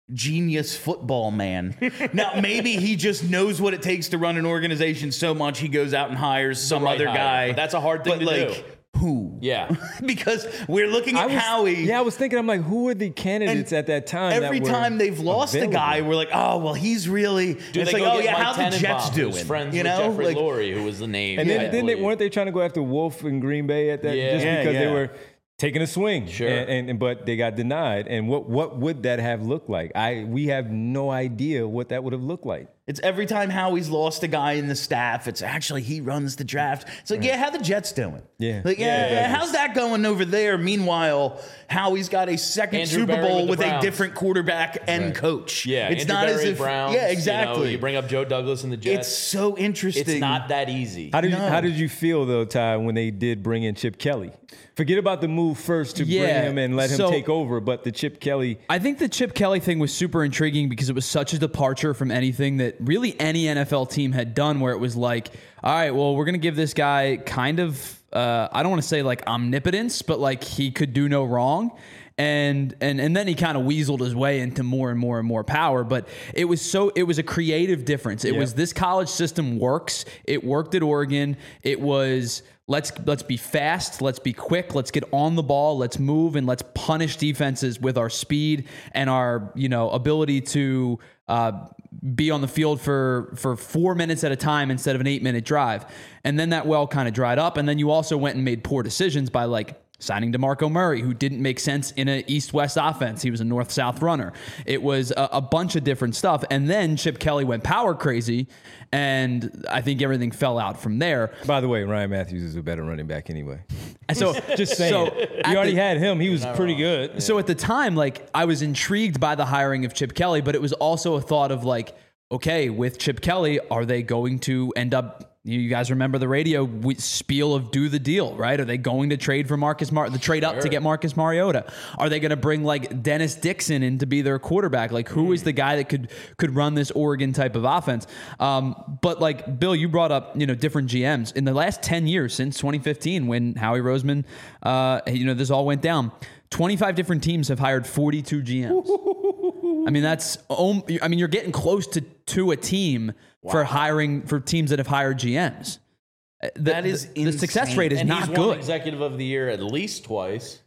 genius football man. Now, maybe he just knows what it takes to run an organization so much he goes out and hires some right other hire. guy. But that's a hard thing but to like, do. Who? Yeah. Because we're looking at I was, Howie. Yeah, I was thinking, I'm like, who were the candidates And at that time? Every that were time they've lost available? a guy, we're like, oh, well, he's really. Do it's they like, go oh, get yeah, Mike how's the Tannenbaum, Jets doing? who's friends you with know? Jeffrey Like, Lurie, who was the name. And then I didn't they, believe. weren't they trying to go after Wolf in Green Bay at that Yeah. just Yeah, because yeah. they were taking a swing? Sure. And, and, and but they got denied. And what what would that have looked like? I we have no idea what that would have looked like. It's every time Howie's lost a guy in the staff, it's actually he runs the draft. It's like, yeah, how the Jets doing? Yeah. Like, yeah, Yeah, yeah. how's that going over there? Meanwhile, Howie's got a second Andrew Super Berry Bowl with with, the a Browns. different quarterback and coach. Yeah, it's Andrew not Berry, as if Browns, yeah, You, know, exactly. you bring up Joe Douglas and the Jets. It's so interesting. It's not that easy. How did you, No. how did you feel though, Ty, when they did bring in Chip Kelly? Forget about the move first to Yeah, bring him and let him so- take over, but the Chip Kelly. I think the Chip Kelly thing was super intriguing because it was such a departure from anything that really any N F L team had done, where it was like, all right, well, we're going to give this guy kind of, uh, I don't want to say like omnipotence, but like he could do no wrong. And and and then he kind of weaseled his way into more and more and more power. But it was so it was a creative difference. It Yep. was this college system works. It worked at Oregon. It was let's let's be fast, let's be quick, let's get on the ball, let's move, and let's punish defenses with our speed and our you know ability to uh, be on the field for for four minutes at a time instead of an eight minute drive. And then that well kind of dried up. And then you also went and made poor decisions by like signing DeMarco Murray, who didn't make sense in an east-west offense. He was a north-south runner. It was a, a bunch of different stuff. And then Chip Kelly went power crazy, and I think everything fell out from there. By the way, Ryan Matthews is a better running back anyway. So Just saying. So you at already the- had him. He was pretty good. So at the time, like I was intrigued by the hiring of Chip Kelly, but it was also a thought of like, okay, with Chip Kelly, are they going to end up? You guys remember the radio spiel of do the deal, right? Are they going to trade for Marcus Mar the trade up to get Marcus Mariota? Are they going to bring like Dennis Dixon in to be their quarterback? Like who is the guy that could could run this Oregon type of offense? Um, but like Bill, you brought up you know different G Ms in the last ten years since twenty fifteen when Howie Roseman, uh, you know this all went down. twenty-five different teams have hired forty-two G Ms. I mean, that's, I mean, you're getting close to, to a team for hiring, for teams that have hired G Ms. The, That is the, the success insane. rate is and not he's won good. Executive of the Year at least twice.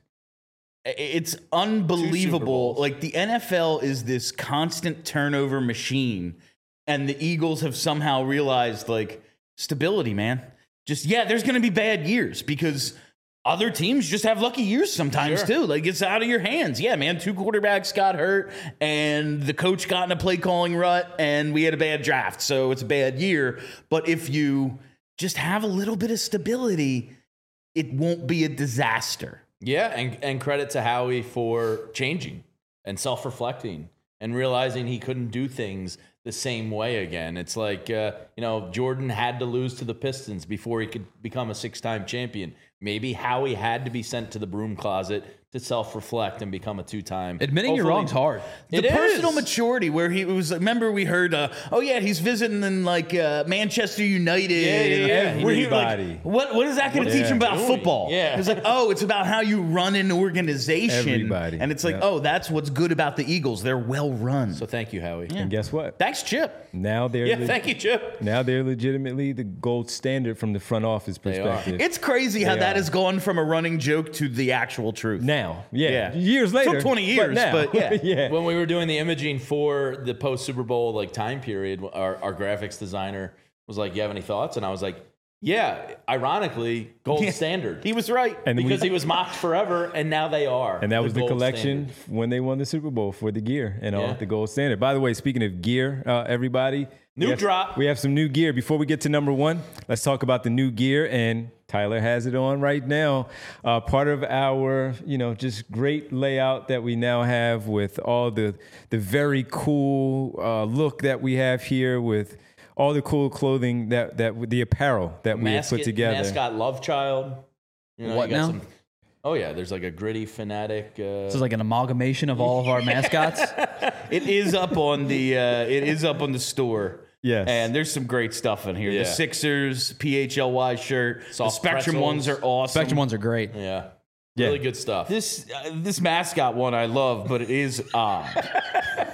It's Two Super unbelievable. Bowls. Like the N F L is this constant turnover machine, and the Eagles have somehow realized like stability, man. Just yeah, there's going to be bad years because other teams just have lucky years sometimes Sure. too. Like it's out of your hands. Yeah, man. Two quarterbacks got hurt, and the coach got in a play calling rut, and we had a bad draft, so it's a bad year. But if you just have a little bit of stability, it won't be a disaster. Yeah, and, and credit to Howie for changing and self-reflecting and realizing he couldn't do things the same way again. It's like, uh, you know, Jordan had to lose to the Pistons before he could become a six-time champion. Maybe Howie had to be sent to the broom closet to self-reflect and become a two-time. Admitting you're Hopefully- wrong's hard. The It personal is. maturity where he was, remember we heard, uh, oh yeah, he's visiting in like uh, Manchester United. Yeah, yeah, and, yeah. uh, where he, like, Everybody. what, what is that going to What teach is him he about doing? football? Yeah. It's like, oh, it's about how you run an organization. Everybody. And it's like, Yeah. oh, that's what's good about the Eagles. They're well run. So thank you, Howie. And guess what? Thanks, Chip. Now they're Yeah, le- thank you, Chip. now they're legitimately the gold standard from the front office are. perspective. It's crazy how They that are. has gone from a running joke to the actual truth. now, yeah. Yeah. years later, Took twenty years, now. but yeah. yeah. When we were doing the imaging for the post Super Bowl like time period, our, our graphics designer was like, "You have any thoughts?" And I was like, "Yeah." Ironically, gold Yeah. standard. E He was right. And because we- he was mocked forever, and now they are. And that was the gold collection standard. when they won the Super Bowl for the gear and all Yeah. the gold standard. By the way, speaking of gear, uh, everybody, New we have- drop. We have some new gear. Before we get to number one, let's talk about the new gear. And Tyler has it on right now. Uh, part of our, you know, just great layout that we now have with all the the very cool uh, look that we have here with all the cool clothing that that the apparel that we have Mascot, put together. mascot love child. You know, What you got now? some- oh yeah, there's like a gritty fanatic. Uh, This is like an amalgamation of all of our mascots. It is up on the uh, it is up on the store. Yes. And there's some great stuff in here. Yeah. The Sixers P H L Y shirt. The Soft Spectrum pretzels. ones are awesome. Spectrum ones are great. yeah, Yeah. really good stuff. This uh, this mascot one I love, but it is odd.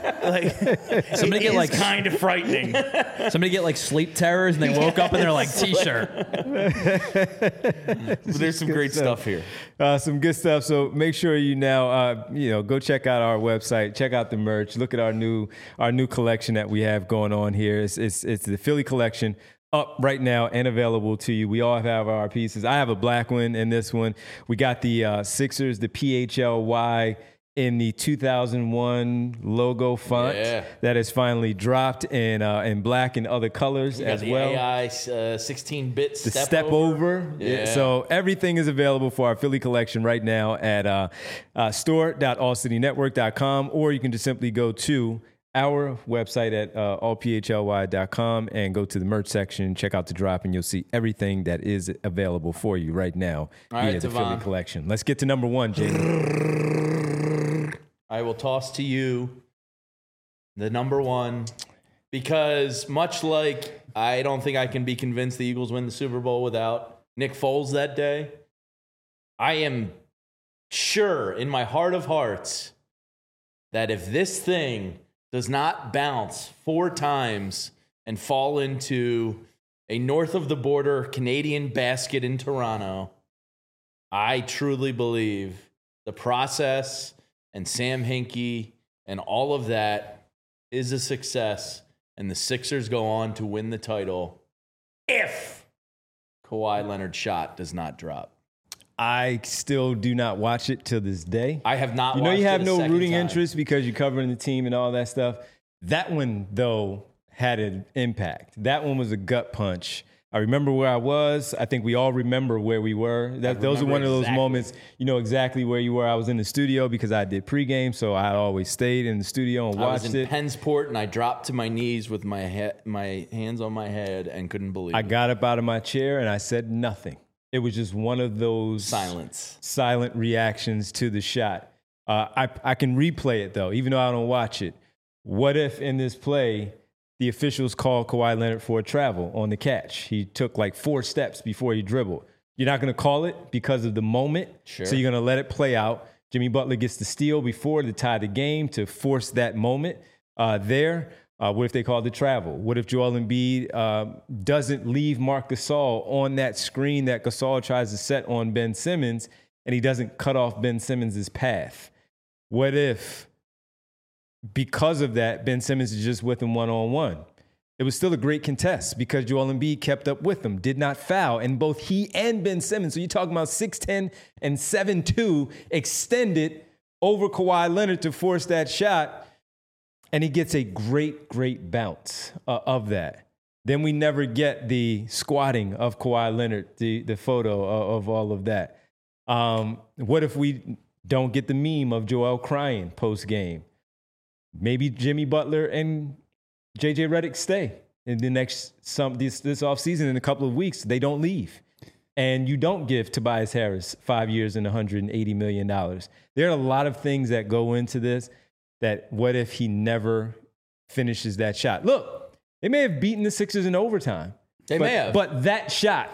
Like, Somebody get like kind of frightening. somebody get like sleep terrors and they woke up and they're like t-shirt. There's some great stuff. stuff here. Uh, some good stuff. So make sure you now, uh, you know, go check out our website, check out the merch, look at our new our new collection that we have going on here. It's it's, it's the Philly collection. Up right now and available to you. We all have our pieces. I have a black one in this one. We got the uh, Sixers, the P H L Y in the two thousand one logo font Yeah. that has finally dropped in uh, in black and other colors You got as the well. A I uh, sixteen-bit The step, step over. Yeah. So everything is available for our Philly collection right now at uh, uh, store dot all city network dot com, or you can just simply go to our website at uh, all p h l y dot com and go to the merch section, check out the drop, and you'll see everything that is available for you right now All via right, the Devon. Philly collection. Let's get to number one, Jamie. I will toss to you the number one because much like I don't think I can be convinced the Eagles win the Super Bowl without Nick Foles that day, I am sure in my heart of hearts that if this thing does not bounce four times and fall into a north of the border Canadian basket in Toronto, I truly believe the process and Sam Hinkie and all of that is a success, and the Sixers go on to win the title if Kawhi Leonard's shot does not drop. I still do not watch it till this day. I have not You know watched you have it a no second rooting time. interest because you're covering the team and all that stuff. That one, though, had an impact. That one was a gut punch. I remember where I was. I think we all remember where we were. That, those are remember one of those exactly. moments, you know exactly where you were. I was in the studio because I did pregame, so I always stayed in the studio and I was watched in it. Pennsport and I dropped to my knees with my he- my hands on my head and couldn't believe I it. got up out of my chair and I said nothing. It was just one of those Silence. silent reactions to the shot. Uh, I, I can replay it, though, even though I don't watch it. What if in this play, the officials called Kawhi Leonard for a travel on the catch? He took like four steps before he dribbled. You're not going to call it because of the moment, Sure. so you're going to let it play out. Jimmy Butler gets the steal before to tie the game to force that moment uh, there. Uh, what if they called the travel? What if Joel Embiid um, doesn't leave Marc Gasol on that screen that Gasol tries to set on Ben Simmons, and he doesn't cut off Ben Simmons' path? What if, because of that, Ben Simmons is just with him one-on-one? It was still a great contest because Joel Embiid kept up with him, did not foul, and both he and Ben Simmons, so you're talking about six ten and seven two, extended over Kawhi Leonard to force that shot. And he gets a great, great bounce uh, of that. Then we never get the squatting of Kawhi Leonard, the, the photo of, of all of that. Um, what if we don't get the meme of Joel crying post-game? Maybe Jimmy Butler and J J Redick stay in the next some this this offseason in a couple of weeks. They don't leave. And you don't give Tobias Harris five years and one hundred eighty million dollars. There are a lot of things that go into this. That what if he never finishes that shot? Look, they may have beaten the Sixers in overtime. They but, may have. But that shot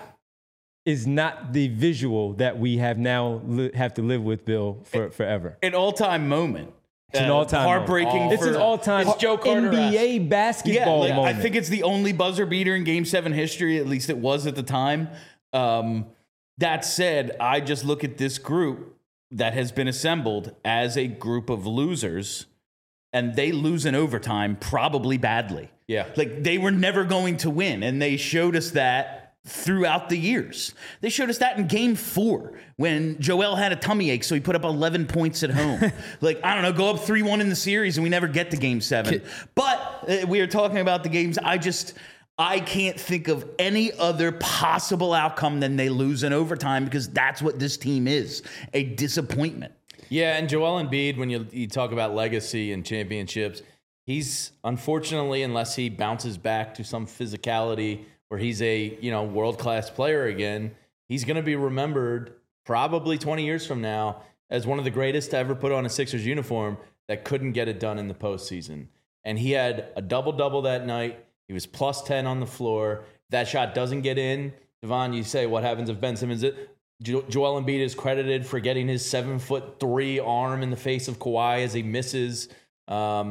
is not the visual that we have now li- have to live with, Bill, for forever. An all-time moment. It's an Uh, all-time heartbreaking. moment. It's for, an all-time It's Joe Carter-esque. N B A basketball yeah, like, moment. I think it's the only buzzer beater in Game Seven history. At least it was at the time. Um, that said, I just look at this group that has been assembled as a group of losers. And they lose in overtime, probably badly. Yeah. Like, they were never going to win. And they showed us that throughout the years. They showed us that in game four when Joel had a tummy ache, so he put up eleven points at home. Like, I don't know, go up three one in the series, and we never get to game seven. But uh, we are talking about the games. I just... I can't think of any other possible outcome than they lose in overtime because that's what this team is, a disappointment. Yeah, and Joel Embiid, when you, you talk about legacy and championships, he's unfortunately, unless he bounces back to some physicality where he's a you know world-class player again, he's going to be remembered probably twenty years from now as one of the greatest to ever put on a Sixers uniform that couldn't get it done in the postseason. And he had a double-double that night. He was plus ten on the floor. If that shot doesn't get in, Devon, you say, what happens if Ben Simmons... Jo- Joel Embiid is credited for getting his seven foot three arm in the face of Kawhi as he misses. Um,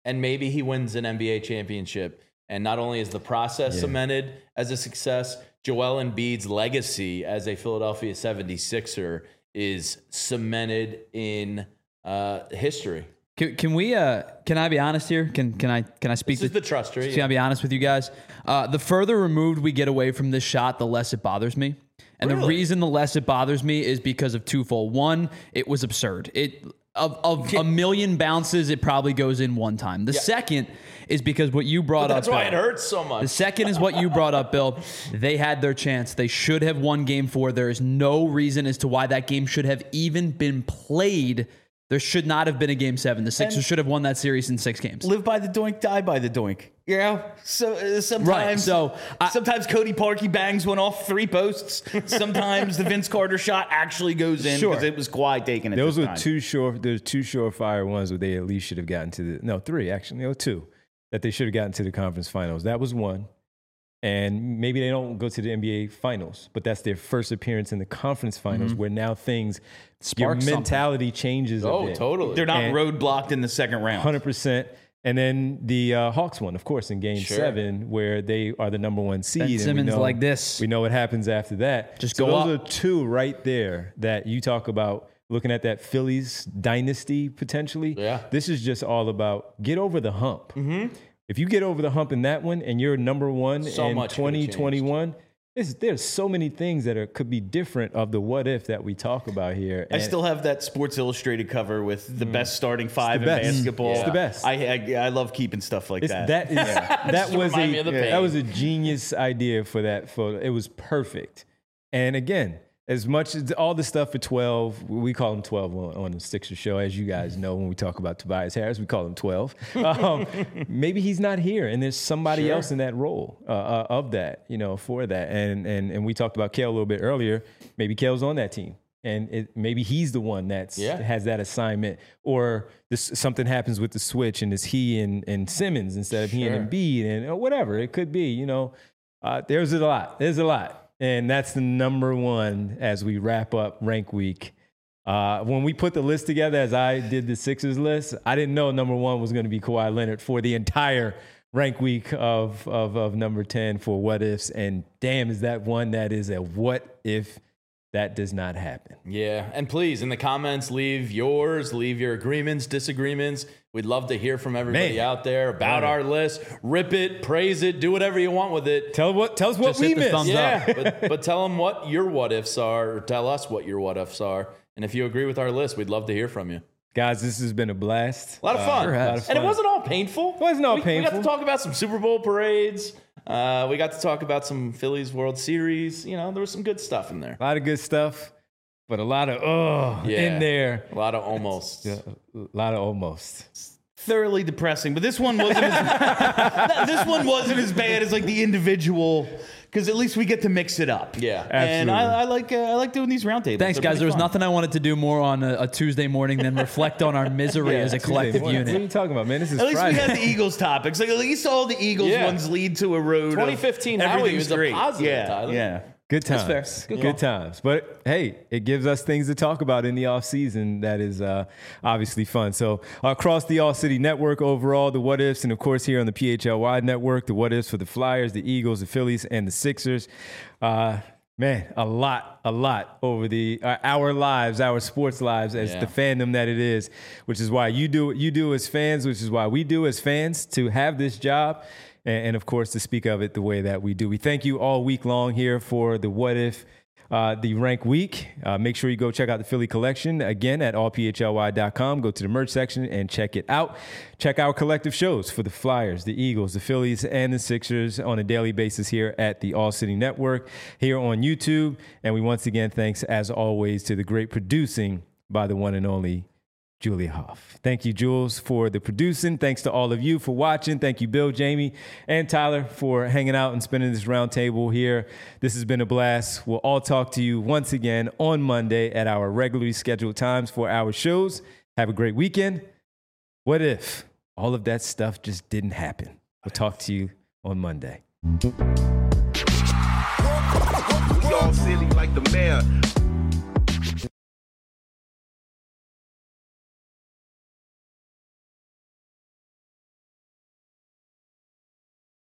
and maybe he wins an N B A championship. And not only is the process Yeah. cemented as a success, Joel Embiid's legacy as a Philadelphia seventy-sixer is cemented in uh, history. Can, can we? Uh, can I be honest here? Can can I can I speak? This is to, the trust tree. Can I be honest with you guys? Uh, the further removed we get away from this shot, the less it bothers me. And the Really? reason the less it bothers me is because of twofold. One, it was absurd. It of, of a million bounces, it probably goes in one time. The second is because what you brought That's up. why Bill. it hurts so much. The second is what you brought up, Bill. They had their chance. They should have won game four. There is no reason as to why that game should have even been played. There should not have been a game seven. The Sixers And- should have won that series in six games. Live by the doink, die by the doink. You know, so uh, sometimes, Right, so I- sometimes Cody Parkey bangs one off three posts. Sometimes the Vince Carter shot actually goes in because Sure. it was Kawhi taking it. Those this were time. two sure. There's two surefire ones where they at least should have gotten to the no three actually no two that they should have gotten to the conference finals. That was one, and maybe they don't go to the N B A finals, but that's their first appearance in the conference finals, where now things Spark your something. mentality changes. a oh, bit. totally. They're not And- roadblocked in the second round. one hundred percent. And then the uh, Hawks one, of course, in Game Sure. Seven, where they are the number one seed. Ben and we Simmons know- like this. We know what happens after that. Just so go those up. are two right there that you talk about looking at that Phillies dynasty potentially. Yeah. This is just all about get over the hump. Mm-hmm. If you get over the hump in that one and you're number one So in much could've twenty twenty-one, there's, there's so many things that are, could be different of the what if that we talk about here. I And- still have that Sports Illustrated cover with the best starting five in Mm. best. basketball. It's the best. I, I I love keeping stuff like It's, that. that is that Just was remind me a of the that pain. was a genius idea for that photo. It was perfect. And again, as much as all the stuff for twelve, we call him twelve on, on the Sixers show, as you guys know when we talk about Tobias Harris, we call him twelve. Um, maybe he's not here, and there's somebody Sure. else in that role uh, uh, of that, you know, for that. And and and we talked about Kale a little bit earlier. Maybe Kale's on that team. And it, maybe he's the one that's Yeah. has that assignment, or this, something happens with the switch, and it's he and, and Simmons instead of he Sure. and Embiid, and or whatever it could be. You know, uh, there's a lot. There's a lot, and that's the number one as we wrap up rank week. Uh, when we put the list together, as I did the Sixers list, I didn't know number one was going to be Kawhi Leonard for the entire rank week of, of of number ten for what ifs, and damn, is that one that is a what if. That does not happen. Yeah, and please, in the comments, leave yours, leave your agreements, disagreements. We'd love to hear from everybody Man. out there about Right. our list. Rip it, praise it, do whatever you want with it. Tell what tell us what Just we hit the missed. thumbs Yeah, but, but tell them what your what ifs are, or tell us what your what ifs are. And if you agree with our list, we'd love to hear from you. Guys, this has been a blast. A lot of fun. sure has. A lot of And it fun. wasn't all painful. It wasn't all we, We got painful. to talk about some Super Bowl parades. Uh, we got to talk about some Phillies World Series. You know, there was some good stuff in there. A lot of good stuff, but a lot of oh Yeah. in there. A lot of almost. A lot of almost. thoroughly depressing. But this one wasn't as, this one wasn't as bad as like the individual, because at least we get to mix it up. Yeah. and Absolutely. I, I like uh, I like doing these roundtables. Thanks, They're guys. pretty There was fun. nothing I wanted to do more on a, a Tuesday morning than reflect on our misery as a collective What, what are you unit. talking about, man? This is At least Friday. we had the Eagles topics. Like at least all the Eagles Yeah. ones lead to a road. of twenty fifteen Howie everything's was a great. positive, Yeah, Tyler. yeah. Good times. That's fair. Good Good, call. times. But hey, it gives us things to talk about in the off season. That is uh, obviously fun. So across the All City Network overall, the what ifs, and of course here on the P H L Y Network, the what ifs for the Flyers, the Eagles, the Phillies, and the Sixers. Uh, man, a lot, a lot over the uh, our lives, our sports lives, as Yeah. the fandom that it is. Which is why you do what you do as fans. Which is why we do as fans to have this job. And, and of course, to speak of it the way that we do. We thank you all week long here for the What If, uh, the Rank Week. Uh, make sure you go check out the Philly collection again at all p h l y dot com. Go to the merch section and check it out. Check our collective shows for the Flyers, the Eagles, the Phillies, and the Sixers on a daily basis here at the All City Network, here on YouTube. And we once again, thanks as always to the great producing by the one and only Julia Hoff. Thank you, Jules, for the producing. Thanks to all of you for watching. Thank you, Bill, Jamie, and Tyler for hanging out and spending this round table here. This has been a blast. We'll all talk to you once again on Monday at our regularly scheduled times for our shows. Have a great weekend. What if all of that stuff just didn't happen? We'll talk to you on Monday. We all silly like the mayor.